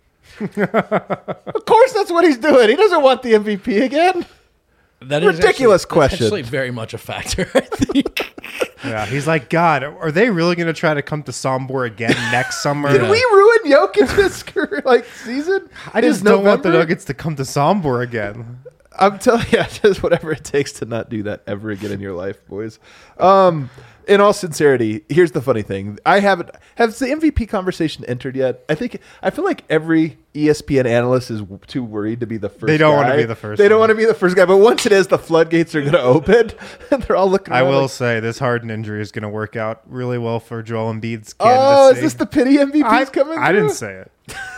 Of course that's what he's doing. He doesn't want the M V P again. That is Ridiculous actually, question. That's actually very much a factor, I think. Yeah, he's like, God, are they really going to try to come to Sombor again next summer? Did we ruin Jokic this like season? I just Is don't want the November? Nuggets to come to Sombor again. I'm telling you, just whatever it takes to not do that ever again in your life, boys. Um, in all sincerity, here's the funny thing: I haven't has the M V P conversation entered yet. I think I feel like every E S P N analyst is w- too worried to be the first. They don't guy. wanna be the first They don't one. want to be the first guy. But once it is, the floodgates are going to open, and they're all looking. I around will like, say this Harden injury is going to work out really well for Joel Embiid's candidacy. oh, is this the pity M V Ps I, coming? I didn't through? say it.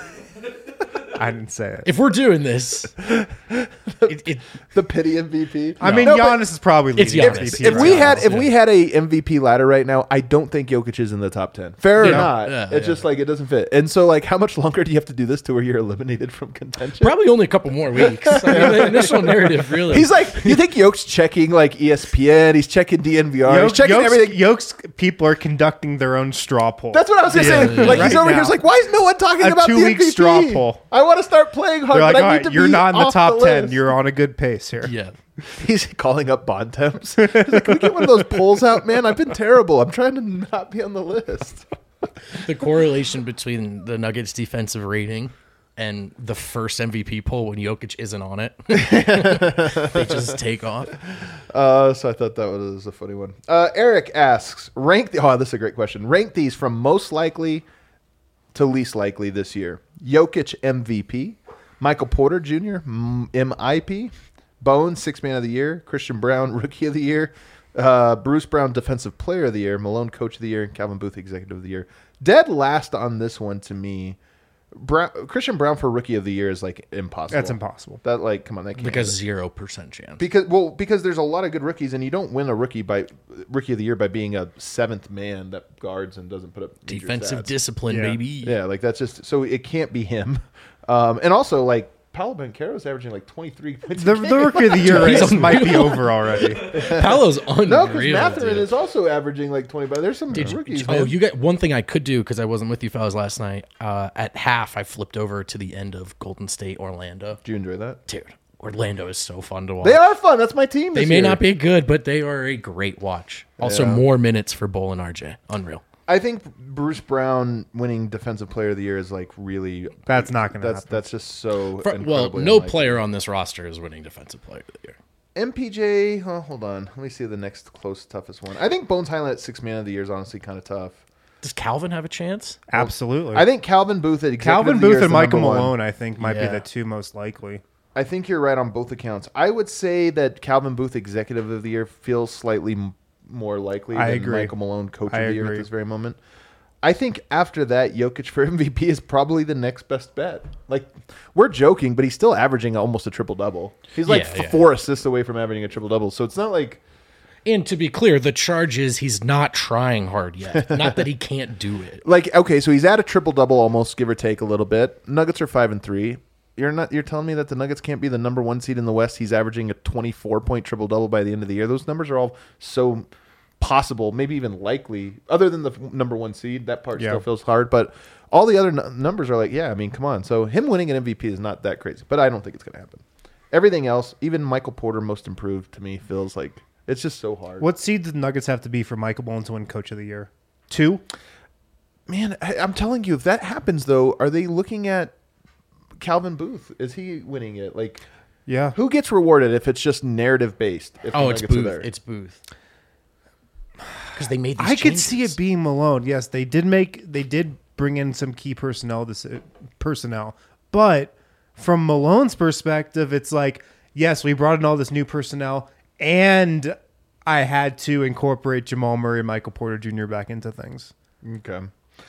I didn't say it. If we're doing this, it, it, the pity M V P. I mean, No, but- Giannis is probably It's leading Giannis. M V P If right we now. had if yeah. we had a M V P ladder right now, I don't think Jokic is in the top ten. Fair or Yeah. not, Yeah, it's yeah. just like it doesn't fit. And so, like, how much longer do you have to do this to where you're eliminated from contention? probably only a couple more weeks. I mean, the initial narrative really. He's like, you think Yoke's checking like E S P N? He's checking D N V R. he's Yoke, checking Yoke's, everything. Yoke's people are conducting their own straw poll. That's what I was gonna Yeah, say. yeah, Like yeah. he's Right over here. now. He's like, why is no one talking A about the two-week M V P? straw poll. I want to start playing hard, They're like, but all I need right, to you're be not in the off top ten. list." You're on a good pace here. yeah. He's calling up bond temps. He's like, can we get one of those polls out, man? I've been terrible. I'm trying to not be on the list. The correlation between the Nuggets' defensive rating and the first M V P poll when Jokic isn't on it, they just take off. Uh, so I thought that was a funny one. Uh, Eric asks, rank the, oh, this is a great question. Rank these from most likely to least likely this year. Jokic M V P, Michael Porter Junior M I P, Bones Sixth Man of the Year, Christian Brown Rookie of the Year, uh, Bruce Brown Defensive Player of the Year, Malone Coach of the Year, and Calvin Booth Executive of the Year. Dead last on this one to me. Brown, Christian Brown for Rookie of the Year is like impossible. That's impossible. That like, come on, that can't Because be. zero percent chance. Because well, because there's a lot of good rookies, and you don't win a rookie by rookie of the year by being a seventh man that guards and doesn't put up major Defensive stats. discipline, Yeah. baby. Yeah, like that's just so it can't be him. Um, and also like Paolo Banchero's averaging like twenty-three points. The, a game. the rookie of the year He's race might be unreal. over already. Paolo's unreal. No, because Mathurin dude. is also averaging like twenty. But there's some Did you- rookies. oh, man. you got one thing I could do because I wasn't with you fellas last night. Uh, at half, I flipped over to the end of Golden State Orlando. Do you enjoy that? Dude, Orlando is so fun to watch. They are fun. That's my team. They this may year. not be good, but they are a great watch. Also, Yeah. more minutes for Bull and R J. Unreal. I think Bruce Brown winning Defensive Player of the Year is like really. That's not going to That's happen. that's just so. For- well, incredibly no unlikely. player on this roster is winning Defensive Player of the Year. M P J. Oh, hold on. Let me see the next close toughest one. I think Bones Highland at Six Man of the Year is honestly kind of tough. Does Calvin have a chance? Absolutely. I think Calvin Booth at Executive Calvin of the Year Booth is and the Michael number one. Malone, I think, might Yeah. be the two most likely. I think you're right on both accounts. I would say that Calvin Booth Executive of the Year feels slightly m- more likely I than agree. Michael Malone Coach I of the Year agree. at this very moment. I think after that, Jokic for M V P is probably the next best bet. Like, we're joking, but he's still averaging almost a triple double. He's like Yeah, f- yeah. four assists away from averaging a triple double. So it's not like And to be clear, the charge is he's not trying hard yet. Not that he can't do it. like okay, so he's at a triple double almost, give or take a little bit. Nuggets are five and three. You're not. You're telling me that the Nuggets can't be the number one seed in the West. He's averaging a twenty-four point triple double by the end of the year. Those numbers are all so possible, maybe even likely. Other than the f- number one seed, that part Yeah. still feels hard. But all the other n- numbers are like, yeah. I mean, come on. So him winning an M V P is not that crazy. But I don't think it's going to happen. Everything else, even Michael Porter, most improved to me, feels like it's just so hard. What seed did the Nuggets have to be for Michael Malone to win Coach of the Year? Two? Man, I, I'm telling you, if that happens, though, are they looking at Calvin Booth? Is he winning it? Like, Yeah. who gets rewarded if it's just narrative based? If the Oh, it's Nuggets are Booth. there? It's Booth. Because they made these I could see changes. it being Malone. Yes, they did make they did bring in some key personnel this personnel. But from Malone's perspective, it's like, yes, we brought in all this new personnel and I had to incorporate Jamal Murray and Michael Porter Junior back into things. Okay.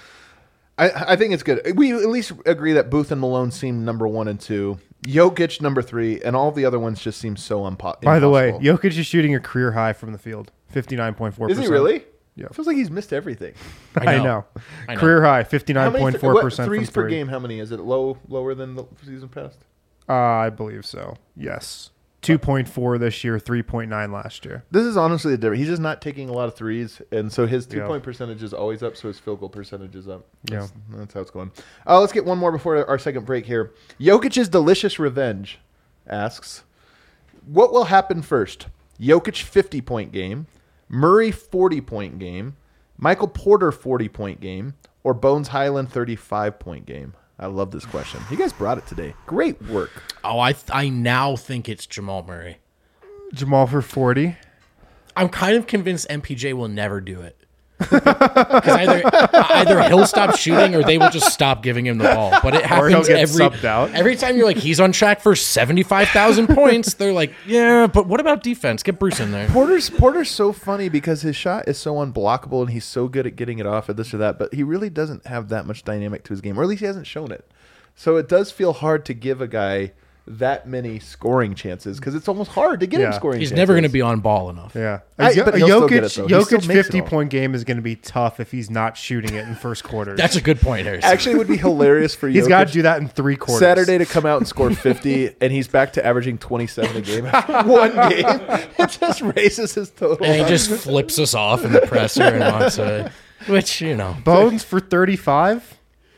I, I think it's good. We at least agree that Booth and Malone seem number one and two. Jokic number three, and all the other ones just seem so unpo- By the way, impossible. Jokic is shooting a career high from the field, fifty-nine point four Is percent. he really? Yeah. Feels like he's missed everything. I know. I know. I know. Career high, How fifty-nine many point th- four what, percent threes from per three. game? How many is it? Low, lower than the season past? Uh, I believe so. Yes. two point four this year, three point nine last year. This is honestly the difference. He's just not taking a lot of threes, and so his Yeah. two-point percentage is always up, so his field goal percentage is up. Yeah. That's, that's how it's going. Uh, let's get one more before our second break here. Jokic's delicious revenge asks, what will happen first? Jokic fifty-point game, Murray forty-point game, Michael Porter forty-point game, or Bones Highland thirty-five-point game? I love this question. You guys brought it today. Great work. Oh, I th- I now think it's Jamal Murray. Jamal for forty. I'm kind of convinced M P J will never do it. Because either either he'll stop shooting or they will just stop giving him the ball. But it Or he'll happens get every subbed out. every time you're like he's on track for seventy-five thousand points. They're like, yeah, but what about defense? Get Bruce in there. Porter's Porter's so funny because his shot is so unblockable and he's so good at getting it off at this or that, but he really doesn't have that much dynamic to his game, or at least he hasn't shown it. So it does feel hard to give a guy that many scoring chances because it's almost hard to get him Yeah. scoring He's chances. never going to be on ball enough. Yeah. I- A, Jo- but a he'll still Jokic, get it, though. He still Jokic makes it fifty all. point game is going to be tough if he's not shooting it in first quarters. That's a good point, Harrison. Actually, it would be hilarious for He's Jokic got to do that in three quarters. Saturday to come out and score fifty, and he's back to averaging twenty-seven a game after one game. It just raises his total. and he just flips us off in the presser and walks away. Which, you know. Bones for thirty-five.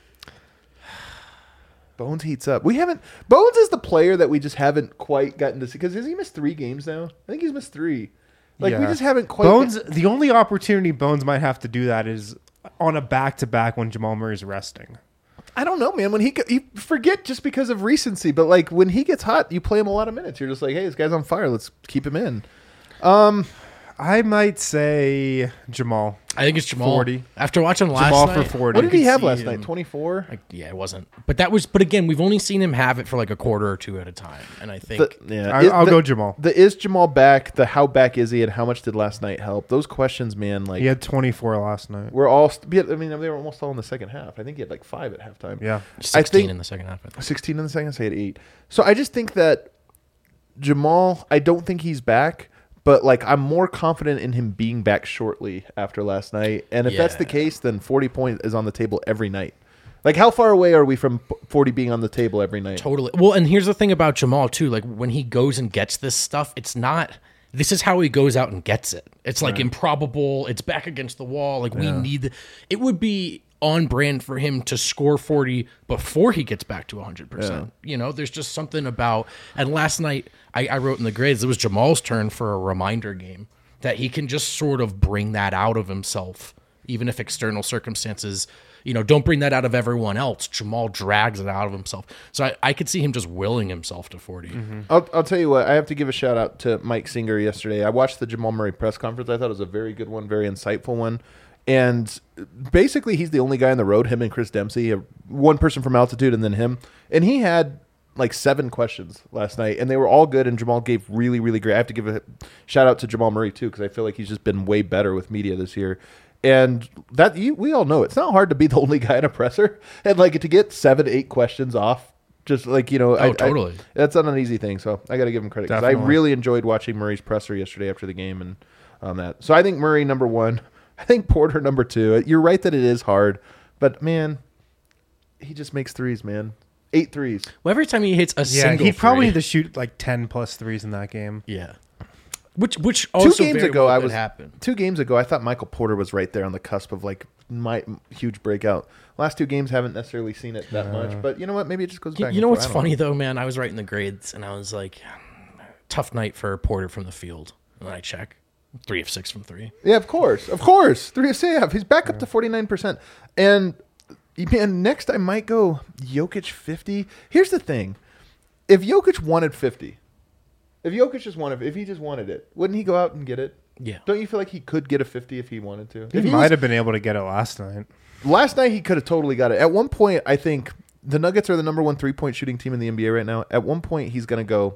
Bones heats up. We haven't. Bones is the player that we just haven't quite gotten to see. Because has he missed three games now? I think he's missed three. Like we Yeah. just haven't quite. Bones. The only opportunity Bones might have to do that is on a back-to-back when Jamal Murray's resting. I don't know, man. When he go- you forget just because of recency, but like when he gets hot, you play him a lot of minutes. You're just like, hey, this guy's on fire. Let's keep him in. I might say Jamal. I think it's Jamal. forty. After watching last Jamal night. for forty. What did he could have see last him. night? twenty-four. Like, yeah, it wasn't. But that was. But again, we've only seen him have it for like a quarter or two at a time, and I think The, yeah, I, Is- I'll the- go Jamal. The is Jamal back? The how back is he? And how much did last night help? Those questions, man. Like He had twenty-four last night. we're all. st- I mean, they were almost all in the second half. I think he had like five at halftime. Yeah. sixteen think- in the second half. I think. sixteen in the second. I say at eight. So I just think that Jamal. I don't think he's back. But like I'm more confident in him being back shortly after last night, and if that's the Yeah. case, then forty points is on the table every night. Like, how far away are we from forty being on the table every night? Totally. Well, and here's the thing about Jamal too. Like when he goes and gets this stuff, it's not. This is how he goes out and gets it. It's like right. improbable. It's back against the wall. Like we yeah. need. It would be on brand for him to score forty before he gets back to one hundred percent. Yeah. You know, there's just something about. And last night, I, I wrote in the grades. It was Jamal's turn for a reminder game that he can just sort of bring that out of himself, even if external circumstances. You know, don't bring that out of everyone else. Jamal drags it out of himself. So I, I could see him just willing himself to forty. Mm-hmm. I'll, I'll tell you what, I have to give a shout out to Mike Singer yesterday. I watched the Jamal Murray press conference. I thought it was a very good one, very insightful one. And basically, he's the only guy on the road, him and Chris Dempsey, one person from altitude and then him. And he had like seven questions last night, and they were all good, and Jamal gave really, really great. I have to give a shout out to Jamal Murray, too, because I feel like he's just been way better with media this year. And that you, we all know it's not hard to be the only guy in a presser, and like to get seven, eight questions off, just like you know, oh I, totally, I, that's not an easy thing. So I got to give him credit because I really enjoyed watching Murray's presser yesterday after the game and on that. So I think Murray number one, I think Porter number two. You're right that it is hard, but man, he just makes threes, man, eight threes. Well, every time he hits a yeah, single, he probably three, need to shoot like ten plus threes in that game. Yeah. Which which also two games very ago well I could was happen. Two games ago I thought Michael Porter was right there on the cusp of like my huge breakout. Last two games haven't necessarily seen it that uh, much, but you know what? Maybe it just goes back. You know what's funny know. though, man? I was writing the grades and I was like, tough night for Porter from the field. And then I check three of six from three. Yeah, of course, of course, three of six. He's back up to forty nine percent. And man, next I might go Jokic fifty. Here's the thing: if Jokic wanted fifty. If Jokic just wanted, if he just wanted it, wouldn't he go out and get it? Yeah. Don't you feel like he could get a fifty if he wanted to? He if he might was, have been able to get it last night. Last night he could have totally got it. At one point, I think the Nuggets are the number one three point shooting team in the N B A right now. At one point, he's going to go.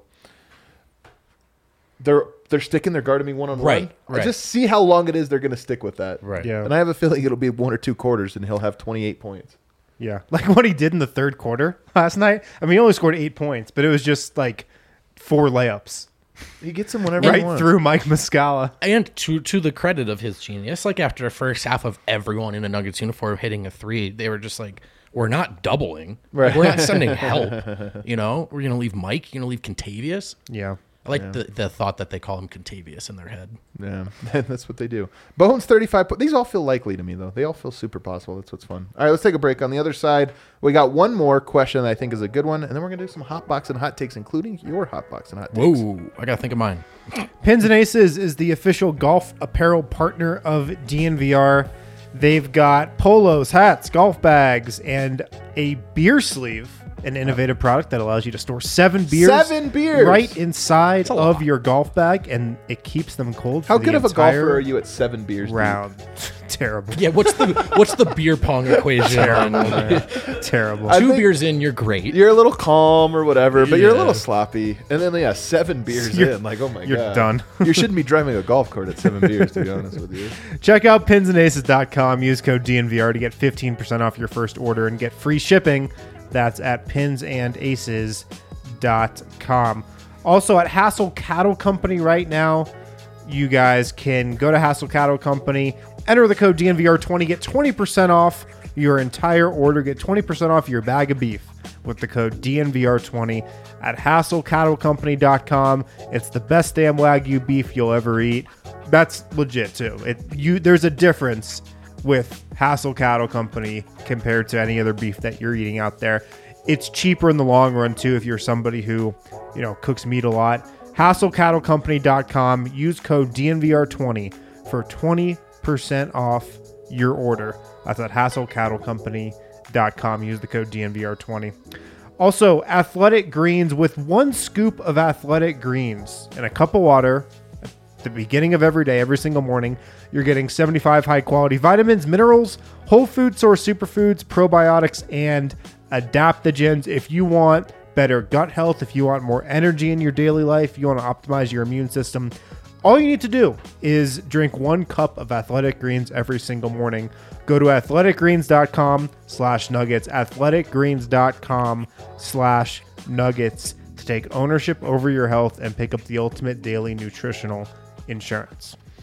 They're they're sticking their guard to me one on right, one. Right. Just see how long it is they're going to stick with that. Right. Yeah. And I have a feeling it'll be one or two quarters, and he'll have twenty eight points. Yeah. Like what he did in the third quarter last night. I mean, he only scored eight points, but it was just like four layups. He gets them whenever right he wants. through Mike Muscala. And to to the credit of his genius, like after the first half of everyone in a Nuggets uniform hitting a three, they were just like, we're not doubling. Right. We're not sending help. You know, we're going to leave Mike. You're going to leave Contavious. Yeah. I like yeah. the, the thought that they call him Contavious in their head. Yeah, that's what they do. Bones thirty-five. These all feel likely to me, though. They all feel super possible. That's what's fun. All right, let's take a break. On the other side, we got one more question that I think is a good one, and then we're going to do some hot box and hot takes, including your hot box and hot takes. Whoa, I got to think of mine. Pins and Aces is the official golf apparel partner of D N V R. They've got polos, hats, golf bags, and a beer sleeve. An innovative product that allows you to store seven beers, seven beers right inside of your golf bag, and it keeps them cold. For How the good of a entire golfer are you at seven beers round? Terrible. Yeah, what's the what's the beer pong equation? Terrible. Terrible. Two beers in, you're great. You're a little calm or whatever, but yeah. you're a little sloppy. And then yeah, seven beers you're, in, like oh my you're god, you're done. You shouldn't be driving a golf cart at seven beers, to be honest with you. Check out pins and aces dot com. Use code D N V R to get fifteen percent off your first order and get free shipping. That's at pins and aces dot com. Also at Hassel Cattle Company right now, you guys can go to Hassel Cattle Company, enter the code D N V R twenty, get twenty percent off your entire order, get twenty percent off your bag of beef with the code D N V R twenty at hassel cattle company dot com. It's the best damn Wagyu beef you'll ever eat. That's legit too. It you there's a difference with Hassel Cattle Company compared to any other beef that you're eating out there. It's cheaper in the long run too if you're somebody who, you know, cooks meat a lot. hassel cattle company dot com. Use code D N V R twenty for twenty percent off your order. That's at hassel cattle company dot com. Use the code D N V R twenty. Also, Athletic Greens, with one scoop of Athletic Greens and a cup of water at the beginning of every day, every single morning, you're getting seventy-five high-quality vitamins, minerals, whole food source superfoods, probiotics, and adaptogens. If you want better gut health, if you want more energy in your daily life, if you want to optimize your immune system, all you need to do is drink one cup of Athletic Greens every single morning. Go to athletic greens dot com slash nuggets, athletic greens dot com slash nuggets to take ownership over your health and pick up the ultimate daily nutritional insurance.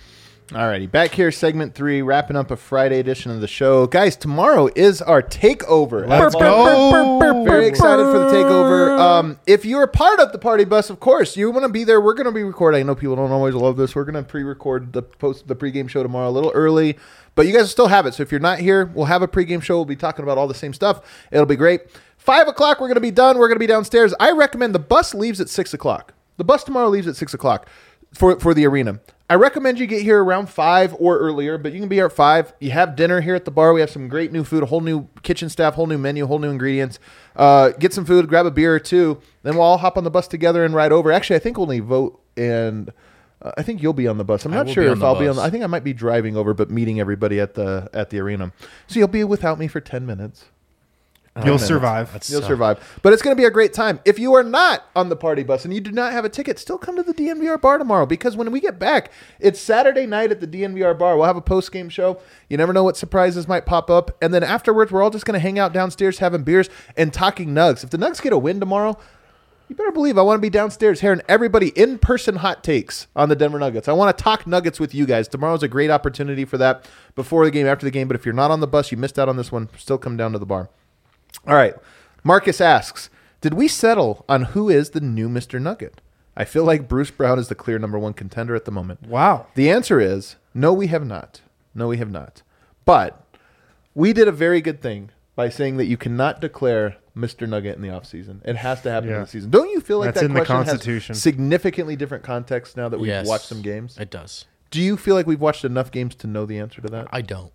Alrighty, back here, segment three, wrapping up a Friday edition of the show. Guys, tomorrow is our takeover. Let's go. Very excited for the takeover. Um, if you're part of the party bus, of course, you want to be there. We're going to be recording. I know people don't always love this. We're going to pre-record the post the pregame show tomorrow a little early, but you guys will still have it. So if you're not here, we'll have a pregame show. We'll be talking about all the same stuff. It'll be great. Five o'clock, we're going to be done. We're going to be downstairs. I recommend the bus leaves at six o'clock. The bus tomorrow leaves at six o'clock for for the arena. I recommend you get here around five or earlier, but you can be here at five. You have dinner here at the bar. We have some great new food, a whole new kitchen staff, whole new menu, whole new ingredients. Uh, get some food, grab a beer or two. Then we'll all hop on the bus together and ride over. Actually, I think only Vote and uh, I think you'll be on the bus. I'm I not will sure be on if the I'll be on. bus. The, I think I might be driving over, but meeting everybody at the at the arena. So you'll be without me for ten minutes. You'll minutes. survive. That's You'll tough. survive. But it's going to be a great time. If you are not on the party bus and you do not have a ticket, still come to the D N V R bar tomorrow, because when we get back, it's Saturday night at the D N V R bar. We'll have a post-game show. You never know what surprises might pop up. And then afterwards, we're all just going to hang out downstairs having beers and talking Nugs. If the Nugs get a win tomorrow, you better believe I want to be downstairs hearing everybody in-person hot takes on the Denver Nuggets. I want to talk Nuggets with you guys. Tomorrow's a great opportunity for that, before the game, after the game. But if you're not on the bus, you missed out on this one, still come down to the bar. All right. Marcus asks, did we settle on who is the new Mister Nugget? I feel like Bruce Brown is the clear number one contender at the moment. Wow. The answer is no, we have not. No, we have not. But we did a very good thing by saying that you cannot declare Mister Nugget in the offseason. It has to happen Yeah. in the season. Don't you feel like That's that in the question Constitution. has significantly different context now that we've Yes, watched some games? It does. Do you feel like we've watched enough games to know the answer to that? I don't.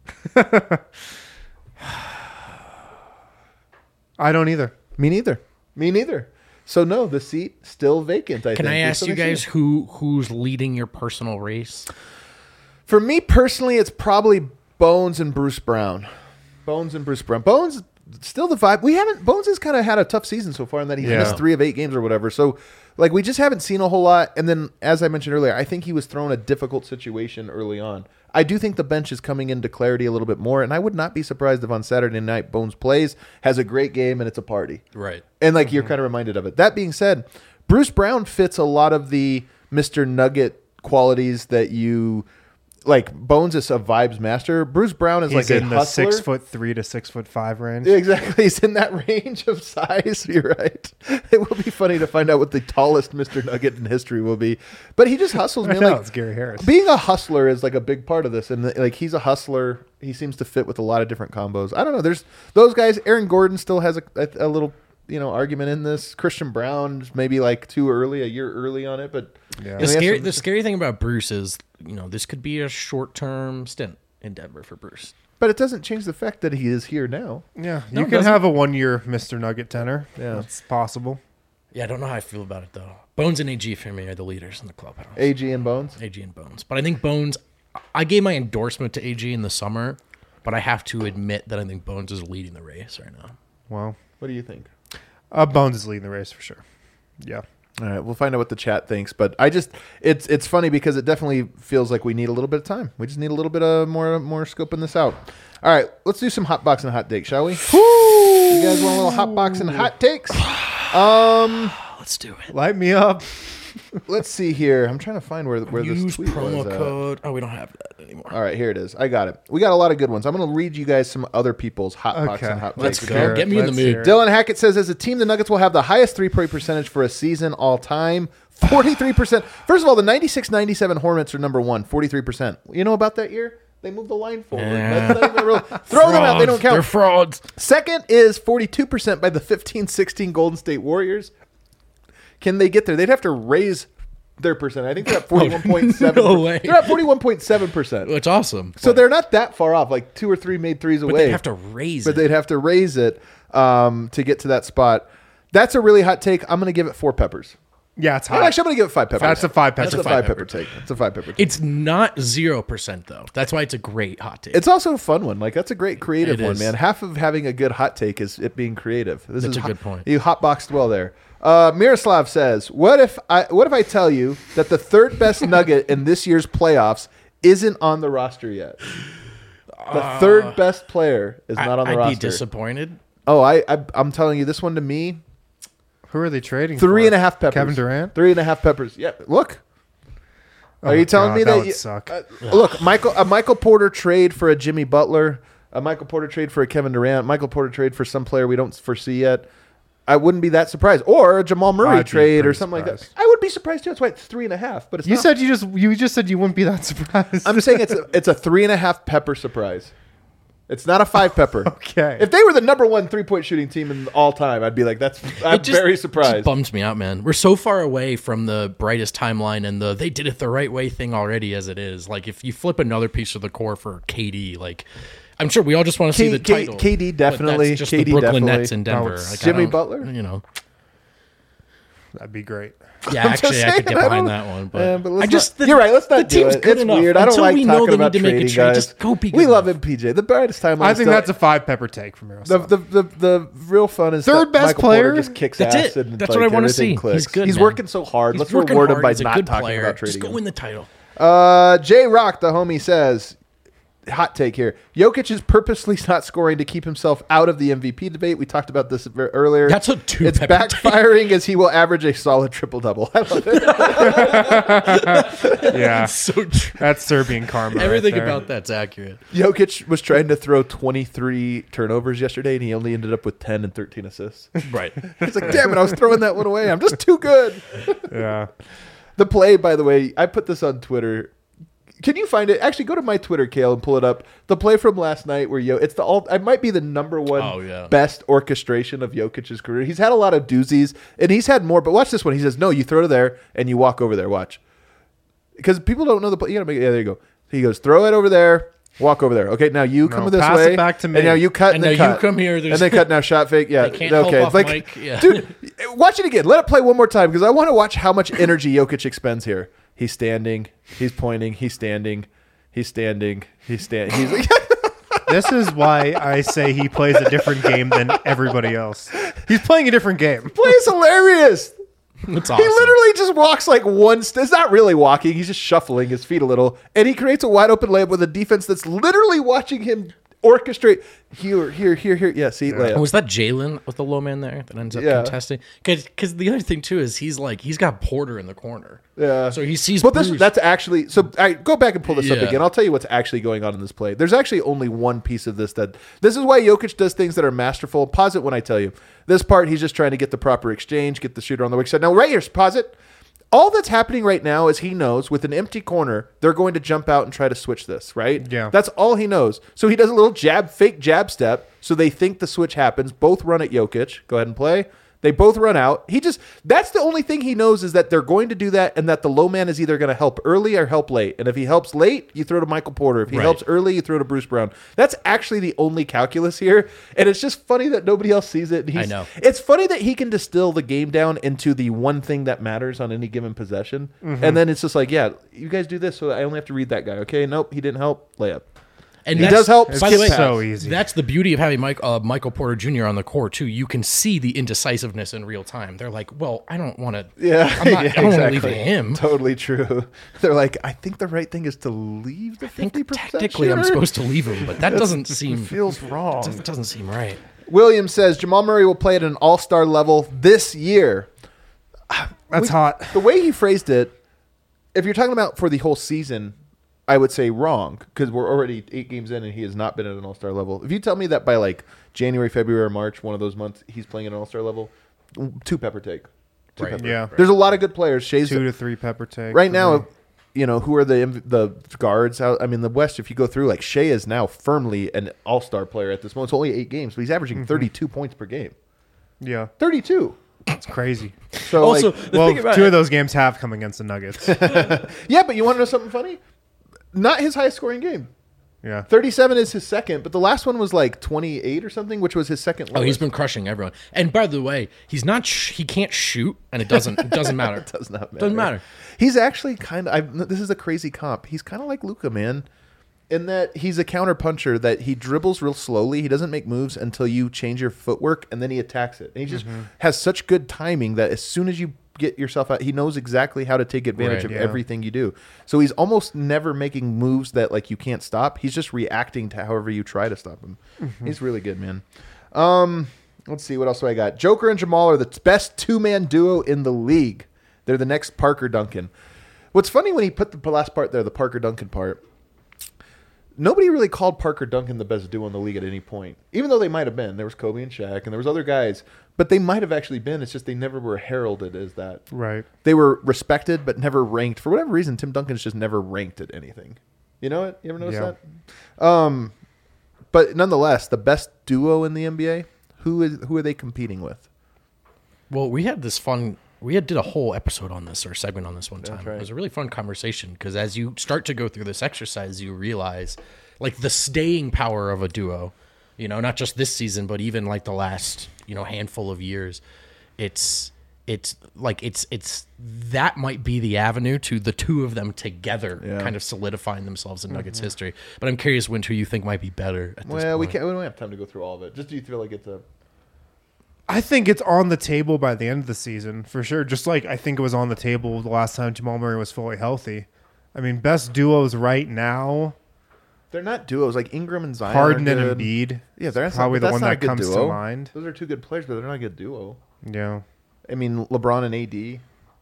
I don't either. Me neither. Me neither. So no, the seat still vacant. I Can think. I We're ask still you gonna see guys it. who who's leading your personal race? For me personally, it's probably Bones and Bruce Brown. Bones and Bruce Brown. Bones still the vibe. We haven't. Bones has kind of had a tough season so far in that he Yeah. missed three of eight games or whatever. So, like, we just haven't seen a whole lot. And then, as I mentioned earlier, I think he was thrown a difficult situation early on. I do think the bench is coming into clarity a little bit more, and I would not be surprised if on Saturday night Bones plays, has a great game, and it's a party. Right. And like you're kind of reminded of it. That being said, Bruce Brown fits a lot of the Mister Nugget qualities that you like. Bones is a vibes master. Bruce Brown is He's like in a the hustler. six foot three to six foot five range. Yeah, exactly. He's in that range of size. You're right. It will be funny to find out what the tallest Mister Nugget in history will be. But he just hustles, I man. know, Like it's Gary Harris. being a hustler is like a big part of this, and like he's a hustler. He seems to fit with a lot of different combos. I don't know. There's those guys. Aaron Gordon still has a, a, a little, you know, argument in this. Christian Brown is maybe like too early, a year early on it, but Yeah. The scary, the scary thing about Bruce is, you know, this could be a short-term stint in Denver for Bruce. but it doesn't change the fact that he is here now. Yeah, No, you it can doesn't. have a one year Mister Nugget tenor. Yeah. That's possible. Yeah, I don't know how I feel about it, though. Bones and A G for me are the leaders in the clubhouse. A G and Bones. A G and Bones. But I think Bones, I gave my endorsement to A G in the summer, but I have to admit that I think Bones is leading the race right now. Well, What do you think? uh, Bones is leading the race for sure. Yeah. All right, we'll find out what the chat thinks, but I just it's it's funny because it definitely feels like we need a little bit of time. We just need a little bit of more more scoping this out. All right, let's do some hot box and hot takes, shall we? You guys want a little hot box and hot takes? Um, Let's do it. Light me up. let's see here. I'm trying to find where where this Use tweet promo was at. code. Oh, we don't have that anymore. All right, here it is. I got it. We got a lot of good ones. I'm going to read you guys some other people's hot box Okay. and hot Let's takes. go. okay? Get me in the Let's mood. hear it. Dylan Hackett says, as a team, the Nuggets will have the highest three-point percentage for a season all time. forty-three percent. First of all, the ninety-six ninety-seven Hornets are number one, forty-three percent. You know about that year? They moved the line forward. Yeah. That's not even real. Throw them out. They don't They're count. frauds. Second is forty-two percent by the fifteen sixteen Golden State Warriors. Can they get there? They'd have to raise their percent. I think they're at forty-one point seven. No way. They're at forty-one point seven percent. It's awesome. So but, they're not that far off, like two or three made threes but away. they have to raise but it. they'd have to raise it um, to get to that spot. That's a really hot take. I'm going to give it four peppers. Yeah, it's Oh, hot. actually, I'm going to give it five peppers. That's a five pepper. That's a five pepper take. It's a five pepper take. It's not zero percent though. That's why it's a great hot take. It's also a fun one. Like that's a great creative It one, is. man. Half of having a good hot take is it being creative. This That's is a hot- good point. You hotboxed well there. Uh, Miroslav says, "What if I? What if I tell you that the third best Nugget in this year's playoffs isn't on the roster yet? The third best player is not on the I'd roster. be disappointed. Oh, I, I I'm telling you, this one to me, Who are they trading three for? and a half peppers. Kevin Durant? Three and a half peppers. Yeah, look, Are you telling God, me that that? would you, suck. Uh, look, Michael, a Michael Porter trade for a Jimmy Butler, a Michael Porter trade for a Kevin Durant, Michael Porter trade for some player we don't foresee yet. I wouldn't be that surprised, or a Jamal Murray I'd be trade or pretty something like surprised. that. I would be surprised too. That's why it's three and a half. But it's You not. said you just you just said you wouldn't be that surprised. I'm saying it's a, it's a three and a half pepper surprise. It's not a five pepper. Okay. If they were the number one three point shooting team in all time, I'd be like, that's. I'm It just- very It surprised. just bums me out, man. We're so far away from the brightest timeline and the they did it the right way thing already as it is. Like if you flip another piece of the core for K D, like I'm sure we all just want to see K- the K- title. K D but definitely. That's just K D the Brooklyn definitely. Nets in Denver. it's Like, I Jimmy don't- Butler? You know. That'd be great. Yeah, actually, I could saying, get I behind don't- that one. But, Yeah, but let's I just not- you're right. Let's not the do team's it. good It's enough. weird. I don't Until like we know talking they about need to make a trading trade. guys. Just go be good We love enough. him, P J. The brightest timeline. I think still, that's a five pepper take from the, Miroslav. the the the real fun is Third that best Michael player? Porter just kicks That's ass. it. And, That's like, what I wanna everything see. clicks. He's good, He's man. working so hard. He's Let's working reward him hard. by He's a not good talking player. about trading Just go him. win the title. Uh, J Rock, the homie, says, hot take here. Jokic is purposely not scoring to keep himself out of the M V P debate. We talked about this ver- earlier. That's a two It's pepper take. backfiring as he will average a solid triple double. I love it. yeah, So true. that's Serbian karma. Everything right there. about that's accurate. Jokic was trying to throw twenty-three turnovers yesterday, and he only ended up with ten and thirteen assists. Right. It's like, damn it, I was throwing that one away. I'm just too good. Yeah. The play, by the way, I put this on Twitter. Can you find it? Actually, go to my Twitter, Kale, and pull it up. The play from last night where Yo, it's the all. It might be the number one Oh, yeah. best orchestration of Jokic's career. He's had a lot of doozies, and he's had more. But watch this one. He says, "No, you throw to there, and you walk over there. Watch, because people don't know the play. You gotta make. Yeah, there you go. He goes, throw it over there, walk over there. Okay, now you come No, this pass way, it back to me. and now you cut, and, And then now you cut. come here, and there's- then cut. Now shot fake. Yeah, They can't okay. help off like, Mike, yeah. dude, watch it again. Let it play one more time because I want to watch how much energy Jokic expends here. He's standing. He's pointing. He's standing. He's standing. He's standing. He's like, This is why I say he plays a different game than everybody else. He's playing a different game. play is hilarious. It's He awesome. literally just walks like one. St- it's not really walking. He's just shuffling his feet a little, and he creates a wide open layup with a defense that's literally watching him orchestrate here, here, here, here. Yeah, see, layup. Was that Jalen with the low man there that ends up Yeah. contesting? Because the other thing too is he's like he's got Porter in the corner. Yeah. So he sees. But this Bruce. that's actually so. I go back and pull this up Yeah. again. I'll tell you what's actually going on in this play. There's actually only one piece of this that this is why Jokic does things that are masterful. Pause it when I tell you. This part, he's just trying to get the proper exchange, get the shooter on the weak side. Now, right here, pause it. All that's happening right now is he knows with an empty corner, they're going to jump out and try to switch this, right? Yeah. That's all he knows. So he does a little jab, fake jab step. So they think the switch happens. Both run at Jokic. Go ahead and play. They both run out. He just, that's the only thing he knows is that they're going to do that and that the low man is either going to help early or help late. And if he helps late, you throw to Michael Porter. If he Right. helps early, you throw to Bruce Brown. That's actually the only calculus here. And it's just funny that nobody else sees it. And he's, I know. It's funny that he can distill the game down into the one thing that matters on any given possession. Mm-hmm. And then it's just like, yeah, you guys do this, so I only have to read that guy. Okay, nope, he didn't help. Layup. And He that's- does help. By the skip way, pass. so easy. That's the beauty of having Mike, uh, Michael Porter Junior on the court too. You can see the indecisiveness in real time. They're like, "Well, I don't want to. Yeah, I'm not, yeah, I don't want to leave exactly. it to him. Totally true. They're like, I think the right thing is to leave the I think fifty percent. technically I'm supposed to leave him, but that doesn't It seem feels wrong. doesn't, doesn't seem right." Williams says Jamal Murray will play at an all-star level this year. That's We- hot. The way he phrased it, if you're talking about for the whole season, I would say wrong because we're already eight games in and he has not been at an all-star level. If you tell me that by like January, February, or March, one of those months, he's playing at an all-star level, two pepper take. Two Right. pepper. Yeah. There's a lot of good players. Shay's Two to three pepper take. right for now, me. you know, who are the the guards out? I mean, the West, if you go through, like, Shea is now firmly an all-star player at this moment. It's only eight games, but he's averaging Mm-hmm. thirty-two points per game. Yeah, thirty-two. it's crazy. So, Also, like, the well, thing about two it- of those games have come against the Nuggets. yeah, but you want to know something funny? Not his highest scoring game. Yeah. thirty-seven is his second, but the last one was like twenty-eight or something, which was his second Oh, he's lowest. been crushing everyone. And by the way, he's not. Sh- he can't shoot, and it doesn't. It doesn't matter. It does not matter. Doesn't matter. He's actually kind of. This is a crazy comp. He's kind of like Luka, man, in that he's a counter puncher that he dribbles real slowly. He doesn't make moves until you change your footwork, and then he attacks it. And he just Mm-hmm. has such good timing that as soon as you get yourself out, he knows exactly how to take advantage Right, of yeah. everything you do. So he's almost never making moves that like you can't stop. He's just reacting to however you try to stop him. Mm-hmm. He's really good, man. Um, let's see what else do I got. Joker and Jamal are the best two man duo in the league. They're the next Parker Duncan. What's funny when he put the last part there, the Parker Duncan part, nobody really called Parker Duncan the best duo in the league at any point, even though they might have been. There was Kobe and Shaq, and there was other guys, but they might have actually been. It's just they never were heralded as that. Right. They were respected, but never ranked. For whatever reason, Tim Duncan's just never ranked at anything. You know it? You ever notice Yeah. that? Um, but nonetheless, the best duo in the N B A, who is who are they competing with? Well, we had this fun. We had did a whole episode on this or segment on this one time. right. It was a really fun conversation because as you start to go through this exercise, you realize like the staying power of a duo. You know, not just this season, but even like the last you know handful of years. It's it's like it's it's that might be the avenue to the two of them together, Yeah. kind of solidifying themselves in Nuggets history. But I'm curious, Winter, you think might be better at this Well, we point. can't. We don't have time to go through all of it. Just do you feel like it's a I think it's on the table by the end of the season for sure. Just like I think it was on the table the last time Jamal Murray was fully healthy. I mean, best duos right now: They're not duos like Ingram and Zion. Harden are and good. Embiid. Yeah, they're probably the that's one not a that good comes duo. to mind. Those are two good players, but they're not a good duo. Yeah, I mean, LeBron and A D,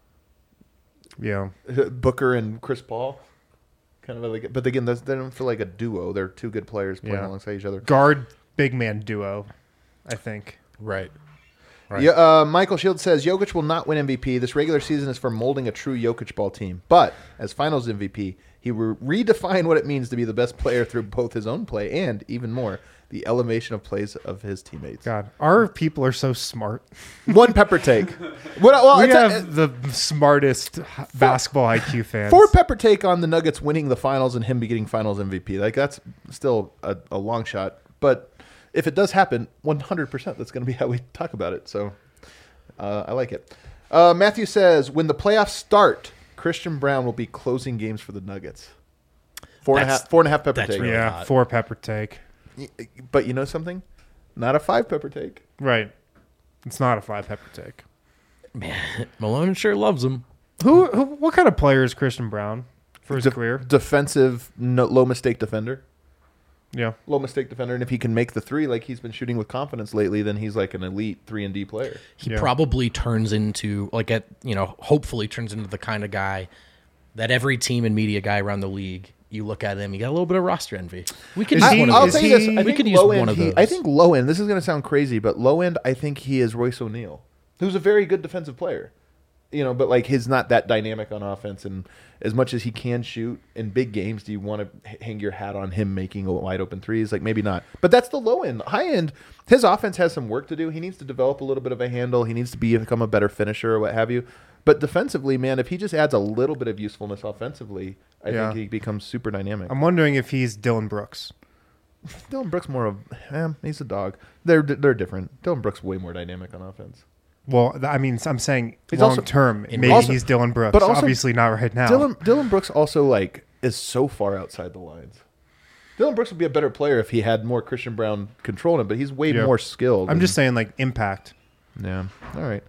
yeah. Booker and Chris Paul, kind of like. But again, those- they don't feel like a duo. They're two good players playing Yeah. alongside each other. Guard big man duo, I think. Right. Right. Yeah, uh, Michael Shields says Jokic will not win M V P. This regular season is for molding a true Jokic ball team. But as Finals M V P, he will redefine what it means to be the best player through both his own play and, even more, the elevation of plays of his teammates. God, our people are so smart. One pepper take. What, well, We it's a- have the smartest basketball I Q fans. Four pepper take on the Nuggets winning the finals and him be getting finals M V P. Like, that's still a, a long shot. But if it does happen, one hundred percent that's going to be how we talk about it. So uh, I like it. Uh, Matthew says, when the playoffs start, Christian Brown will be closing games for the Nuggets. Four and a That's- half, four and a half pepper that's take. really yeah, hot. four pepper take. Y- But you know something? Not a five pepper take. Right. It's not a five pepper take. Man, Malone sure loves him. Who, who? What kind of player is Christian Brown for his De- career? Defensive, no, low mistake defender. Yeah. Low mistake defender. And if he can make the three like he's been shooting with confidence lately, then he's like an elite three and D player. He Yeah. probably turns into like at you know hopefully turns into the kind of guy that every team and media guy around the league you look at him, you got a little bit of roster envy. We could Is use he- one of I'll those. tell you this. he- I we think could use low one end. of He, those. I think low end. This is going to sound crazy, but low end. I think he is Royce O'Neal, who's a very good defensive player. You know, but like he's not that dynamic on offense, and as much as he can shoot in big games, do you want to h- hang your hat on him making wide open threes? Like maybe not. But that's the low end. High end, his offense has some work to do. He needs to develop a little bit of a handle. He needs to be become a better finisher or what have you. But defensively, man, if he just adds a little bit of usefulness offensively, I Yeah. think he becomes super dynamic. I'm wondering if he's Dylan Brooks. Dylan Brooks more of, eh, he's a dog. They're they're different. Dylan Brooks way more dynamic on offense. Well, th- I mean, I'm saying He's long also- term. in- Maybe also- he's Dylan Brooks. but also- Obviously not right now. Dylan Dylan Brooks also like is so far outside the lines. Dylan Brooks would be a better player if he had more Christian Brown control him, but he's way Yeah. more skilled. I'm and- just saying, like impact. yeah. All right.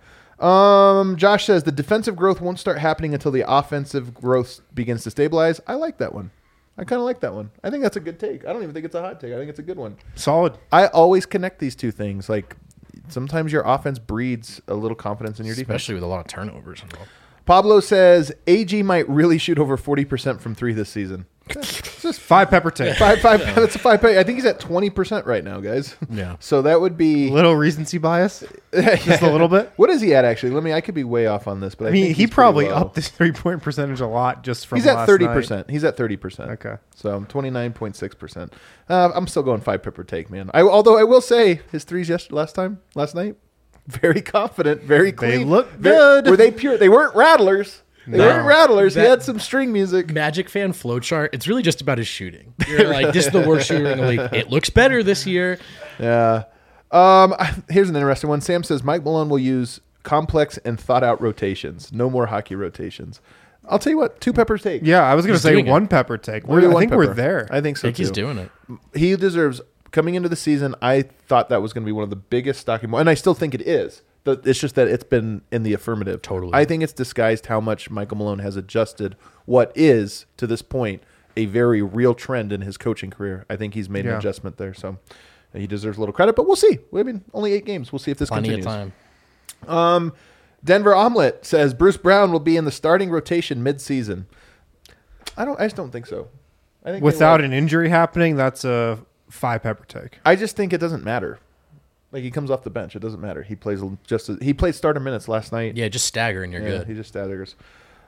Um, Josh says the defensive growth won't start happening until the offensive growth begins to stabilize. I like that one. I kind of like that one. I think that's a good take. I don't even think it's a hot take. I think it's a good one. Solid. I always connect these two things. Like sometimes your offense breeds a little confidence in your defense. especially with a lot of turnovers involved. Pablo says A G might really shoot over forty percent from three this season. It's just Five pepper take. five, five. That's a five. I think he's at twenty percent right now, guys. Yeah. So that would be. Little recency bias. Just a little bit. What is he at actually? Let me. I could be way off on this, but I, I mean, think he he's pretty probably low. upped his three point percentage a lot just from He's at last thirty night. percent. He's at thirty percent. Okay. So twenty nine point six percent. Uh, I'm still going five pepper take, man. I although I will say his threes yes, last time last night, very confident, very clean. look Very- good. Were they pure? They weren't rattlers. They No. weren't rattlers. he That- had some string music. Magic fan flowchart. It's really just about his shooting. You're like, this is the worst shooter in the league. It looks better this year. Yeah. Um, here's an interesting one. Sam says Mike Malone will use complex and thought out rotations. No more hockey rotations. I'll tell you what. Two peppers take. Yeah, I was going to He's say doing it. one pepper take. We're We're, doing I one think we're pepper. there. I think I so think too. he's doing it. He deserves coming into the season. I thought that was going to be one of the biggest stocking, and I still think it is. The- It's just that it's been in the affirmative. Totally. I think it's disguised how much Michael Malone has adjusted what is to this point a very real trend in his coaching career. I think he's made an Yeah. adjustment there, so he deserves a little credit. But we'll see. I mean, only eight games. We'll see if this Plenty continues. of time. Um, Denver Omelet says Bruce Brown will be in the starting rotation mid-season. I don't. I just don't think so. I think they Without will. an injury happening, that's a five pepper take. I just think it doesn't matter. Like he comes off the bench, it doesn't matter. He plays just. He played starter minutes last night. Yeah, just stagger and you're Yeah, good. he just staggers.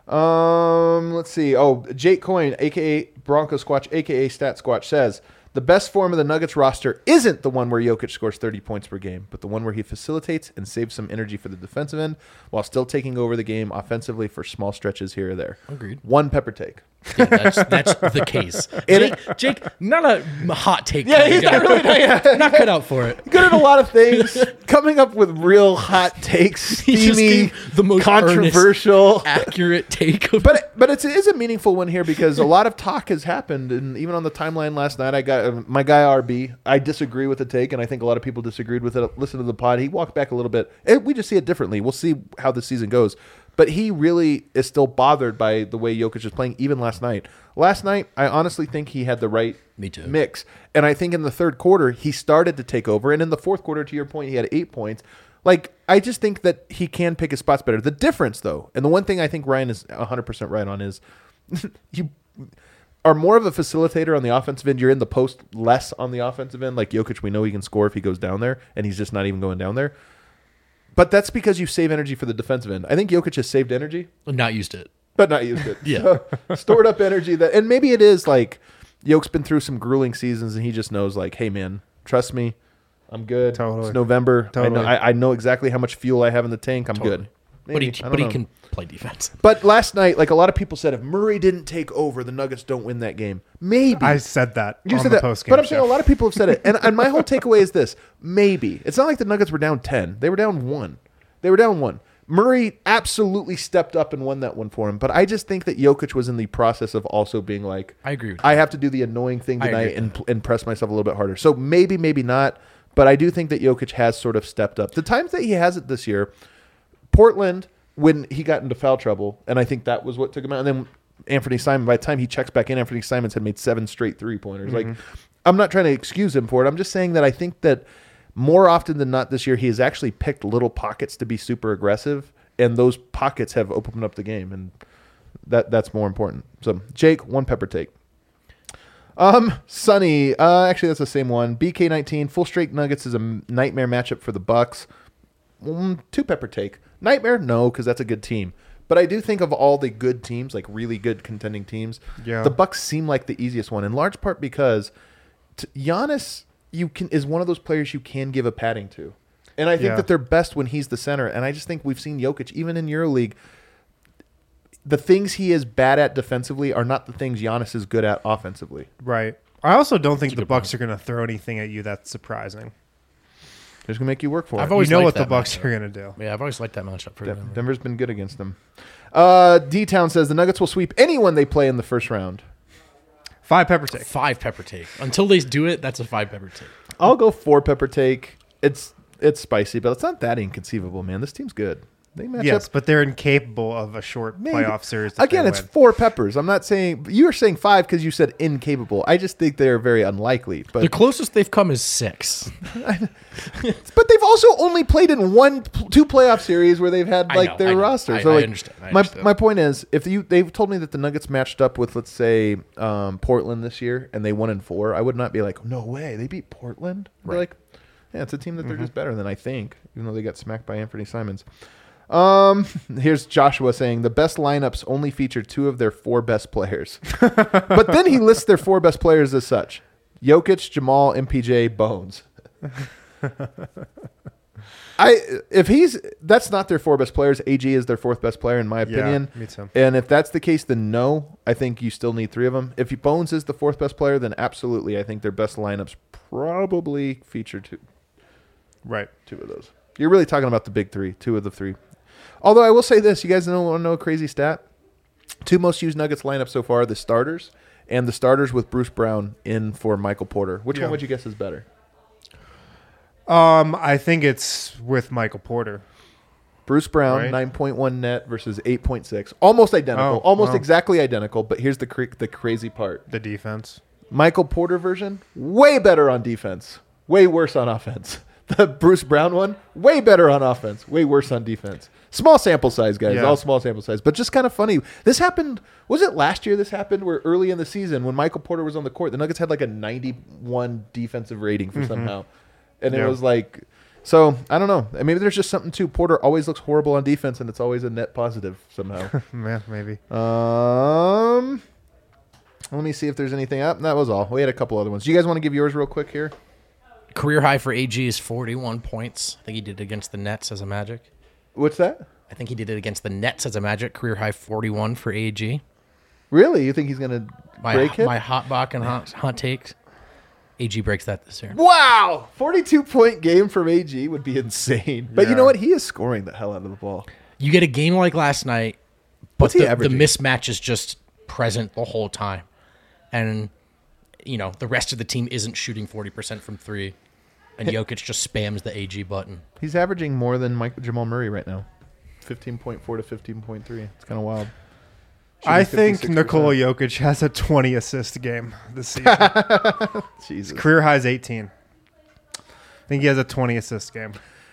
Um, let's see. Oh, Jake Coyne, aka Bronco Squatch, aka Stat Squatch, says the best form of the Nuggets roster isn't the one where Jokic scores thirty points per game, but the one where he facilitates and saves some energy for the defensive end while still taking over the game offensively for small stretches here or there. Agreed. One pepper take. Yeah, that's, that's the case. And Jake, Jake, not a hot take. Yeah, kind of he's guy. not really- yeah. not cut out for it. Good at a lot of things. Coming up with real hot takes, He just steamy, gave the most controversial. Accurate take. Of But but it's, it is a meaningful one here because a lot of talk has happened, and even on the timeline last night, I got uh, my guy R B. I disagree with the take, and I think a lot of people disagreed with it. Listen to the pod; he walked back a little bit. And we just see it differently. We'll see how the season goes, but he really is still bothered by the way Jokic is playing, even last night. Last night, I honestly think he had the right Me too. mix, and I think in the third quarter he started to take over, and in the fourth quarter, to your point, he had eight points. Like, I just think that he can pick his spots better. The difference, though, and the one thing I think Ryan is one hundred percent right on is you are more of a facilitator on the offensive end. You're in the post less on the offensive end. Like Jokic, we know he can score if he goes down there, and he's just not even going down there. But that's because you save energy for the defensive end. I think Jokic has saved energy, not used it. but not used it. Yeah. So, stored up energy that, and maybe it is like Jokic's been through some grueling seasons, and he just knows, like, hey man, trust me, I'm good. Totally. It's November. Totally. I know, I, I know exactly how much fuel I have in the tank. I'm Totally. good. But Maybe. he, I don't but he know. can play defense. But last night, like a lot of people said, if Murray didn't take over, the Nuggets don't win that game. Maybe. I said that You on said the that, post-game but I'm show. saying a lot of people have said it, and, and my whole takeaway is this: maybe it's not like the Nuggets were down ten; they were down one. They were down one. Murray absolutely stepped up and won that one for him, but I just think that Jokic was in the process of also being like, I agree with I you. have to do the annoying thing I agree tonight with and that. and press myself a little bit harder. So maybe, maybe not, but I do think that Jokic has sort of stepped up. The times that he has it this year, Portland, when he got into foul trouble, and I think that was what took him out. And then Anthony Simon, by the time he checks back in, Anthony Simons had made seven straight three-pointers. Mm-hmm. Like, I'm not trying to excuse him for it. I'm just saying that I think that more often than not this year, he has actually picked little pockets to be super aggressive, and those pockets have opened up the game, and that that's more important. So, Jake, one pepper take. Um, Sonny, uh, actually that's the same one. B K nineteen, full straight Nuggets is a m- nightmare matchup for the Bucks. Mm, two pepper take. Nightmare? No, because that's a good team. But I do think of all the good teams, like really good contending teams, Yeah. the Bucks seem like the easiest one, in large part because t- Giannis you can is one of those players you can give a padding to. And I think Yeah. that they're best when he's the center. And I just think we've seen Jokic, even in EuroLeague, the things he is bad at defensively are not the things Giannis is good at offensively. Right. I also don't think the good Bucks are going to throw anything at you that's surprising. They're just going to make you work for I've it. always you know liked what the that Bucks matchup. are going to do. Yeah, I've always liked that matchup for Den- Denver. Denver's been good against them. Uh, D-Town says the Nuggets will sweep anyone they play in the first round. Five pepper take. Five pepper take. Until they do it, that's a five pepper take. I'll go four pepper take. It's it's spicy, but it's not that inconceivable, man. This team's good. They match Yes, up. but they're incapable of a short Maybe. playoff series. if Again, they it's win. four peppers. I'm not saying you were saying five because you said incapable. I just think they're very unlikely. But The closest they've come is six. but they've also only played in one, two playoff series where they've had I like know, their I know. roster. I- so I like, understand, I my understand. my point is, if you they've told me that the Nuggets matched up with, let's say, um, Portland this year and they won in four, I would not be like, no way, they beat Portland. I'd be Right. like, yeah, it's a team that they're Mm-hmm. just better than, I think, even though they got smacked by Anthony Simons. Um, here's Joshua saying the best lineups only feature two of their four best players, but then he lists their four best players as such: Jokic, Jamal, M P J, Bones. I if he's that's not their four best players. A G is their fourth best player in my opinion. me too. And if that's the case, then no, I think you still need three of them. If Bones is the fourth best player, then absolutely, I think their best lineups probably feature two Right. two of those. You're really talking about the big three, two of the three. Although I will say this, you guys know want to know a crazy stat? Two most used Nuggets lineups so far: the starters and the starters with Bruce Brown in for Michael Porter. Which Yeah. one would you guess is better? Um, I think it's with Michael Porter. Bruce Brown, Right. nine point one net versus eight point six. Almost identical. Oh, almost wow. exactly identical, but here's the cra- the crazy part. The defense. Michael Porter version, way better on defense. Way worse on offense. The Bruce Brown one, way better on offense. Way worse on defense. Small sample size, guys. Yeah. All small sample size. But just kind of funny. This happened, was it last year this happened? Where early in the season when Michael Porter was on the court, the Nuggets had like a ninety-one defensive rating for somehow. And it Yeah. was like, so I don't know. Maybe there's just something too. Porter always looks horrible on defense and it's always a net positive somehow. Yeah, maybe. um, Let me see if there's anything up. That was all. We had a couple other ones. Do you guys want to give yours real quick here? Career high for A G is forty-one points. I think he did it against the Nets as a Magic. What's that? I think he did it against the Nets as a Magic. Career high forty-one for A G. Really? You think he's going to My, break it? my hot Bach and hot, hot takes. A G breaks that this year. Wow! forty-two point game from A G would be insane. But you Yeah. know what? He is scoring the hell out of the ball. You get a game like last night, but What's he the, the averaging? mismatch is just present the whole time. And, you know, the rest of the team isn't shooting forty percent from three. And Jokic just spams the A G button. He's averaging more than Mike, Jamal Murray right now. fifteen point four to fifteen point three. It's kind of wild. I Shooting think fifty-six percent. Nikola Jokic has a twenty assist game this season. Jesus. Career high is eighteen. I think he has a twenty assist game.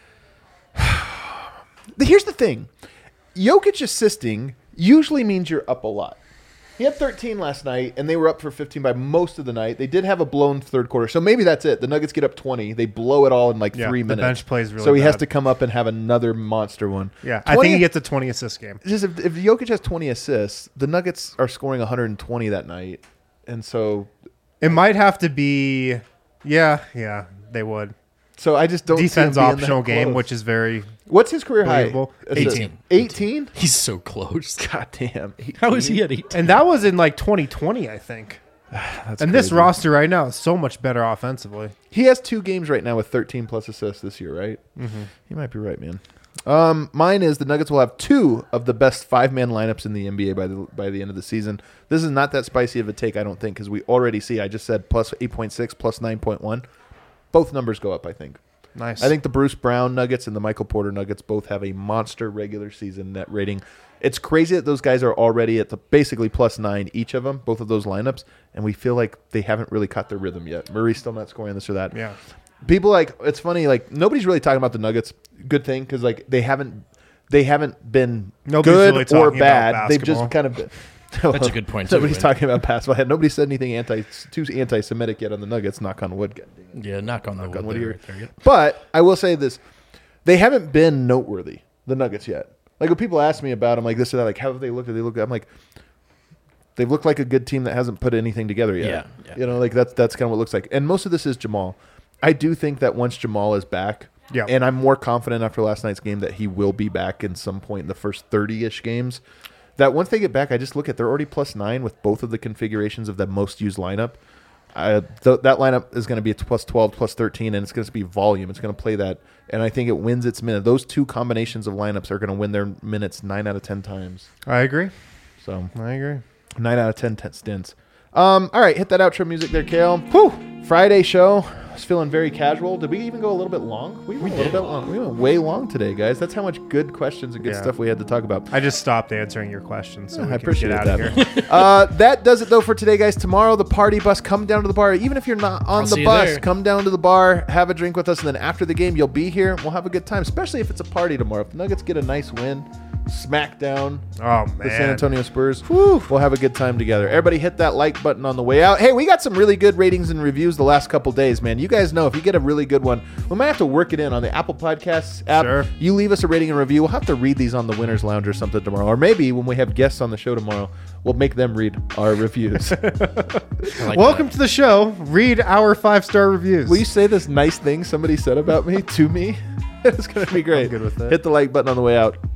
Here's the thing. Jokic assisting usually means you're up a lot. He had thirteen last night, and they were up for fifteen by most of the night. They did have a blown third quarter, so maybe that's it. The Nuggets get up twenty. They blow it all in like Yeah, three the minutes. bench plays really So he has bad. to come up and have another monster one. Yeah, I twenty think he gets a twenty assist game. Just if, if Jokic has twenty assists, the Nuggets are scoring one hundred twenty that night. And so It might have to be, yeah, yeah, they would. so I just don't see him Defense being that optional game, close. which is very. What's his career high? Believable. Assist- eighteen. eighteen? He's so close. God damn. How is he at eighteen? And that was in like twenty twenty, I think. That's And this crazy. roster right now is so much better offensively. He has two games right now with thirteen plus assists this year, right? Mm-hmm. You might be right, man. Um, mine is the Nuggets will have two of the best five-man lineups in the N B A by the by the end of the season. This is not that spicy of a take, I don't think, because we already see. I just said plus eight point six, plus nine point one. Both numbers go up, I think. Nice. I think the Bruce Brown Nuggets and the Michael Porter Nuggets both have a monster regular season net rating. It's crazy that those guys are already at the basically plus nine each of them, both of those lineups, and we feel like they haven't really caught their rhythm yet. Murray's still not scoring this or that. Yeah. People like it's funny like nobody's really talking about the Nuggets. Good thing because like they haven't they haven't been Nobody's good really or talking about bad. They've just basketball. kind of. Been, That's a good point, too, Nobody's Wayne. talking about basketball. Nobody said anything anti too anti-Semitic yet on the Nuggets. Knock on wood. God dang it. Yeah, knock on the wood. on wood there, here. right there, yeah. But I will say this: they haven't been noteworthy, the Nuggets yet. Like when people ask me about them, like this or that, like how have they looked? Have they looked? I'm like, they've looked like a good team that hasn't put anything together yet. Yeah, yeah. You know, like that's that's kind of what it looks like. And most of this is Jamal. I do think that once Jamal is back, Yeah. and I'm more confident after last night's game that he will be back in some point in the first thirty-ish games. That once they get back, I just look at they're already plus nine with both of the configurations of the most used lineup. I, th- that lineup is going to be plus twelve, plus thirteen, and it's going to be volume. It's going to play that, and I think it wins its minute. Those two combinations of lineups are going to win their minutes nine out of ten times. I agree. So I agree. nine out of ten, ten stints. Um, all right, hit that outro music there, Kale. Whew. Friday show. I was feeling very casual. Did we even go a little bit long? We went a little bit long. We went way long today, guys. That's how much good questions and good Yeah. stuff we had to talk about. I just stopped answering your questions, so we I can appreciate get out that. of here. uh, that does it though for today, guys. Tomorrow, the party bus. Come down to the bar. Even if you're not on I'll the see you bus, there. come down to the bar, have a drink with us, and then after the game, you'll be here. We'll have a good time, especially if it's a party tomorrow. If the Nuggets get a nice win, smack down Oh the San man. Antonio Spurs. We'll have a good time together. Everybody hit that like button on the way out. Hey, we got some really good ratings and reviews the last couple days, man. You guys know if you get a really good one, we might have to work it in on the Apple Podcasts app. Sure. You leave us a rating and review. We'll have to read these on the Winner's Lounge or something tomorrow. Or maybe when we have guests on the show tomorrow, we'll make them read our reviews. I like Welcome that. to the show. Read our five star reviews. Will you say this nice thing somebody said about me to me? It's going to be great. good with that. Hit the like button on the way out.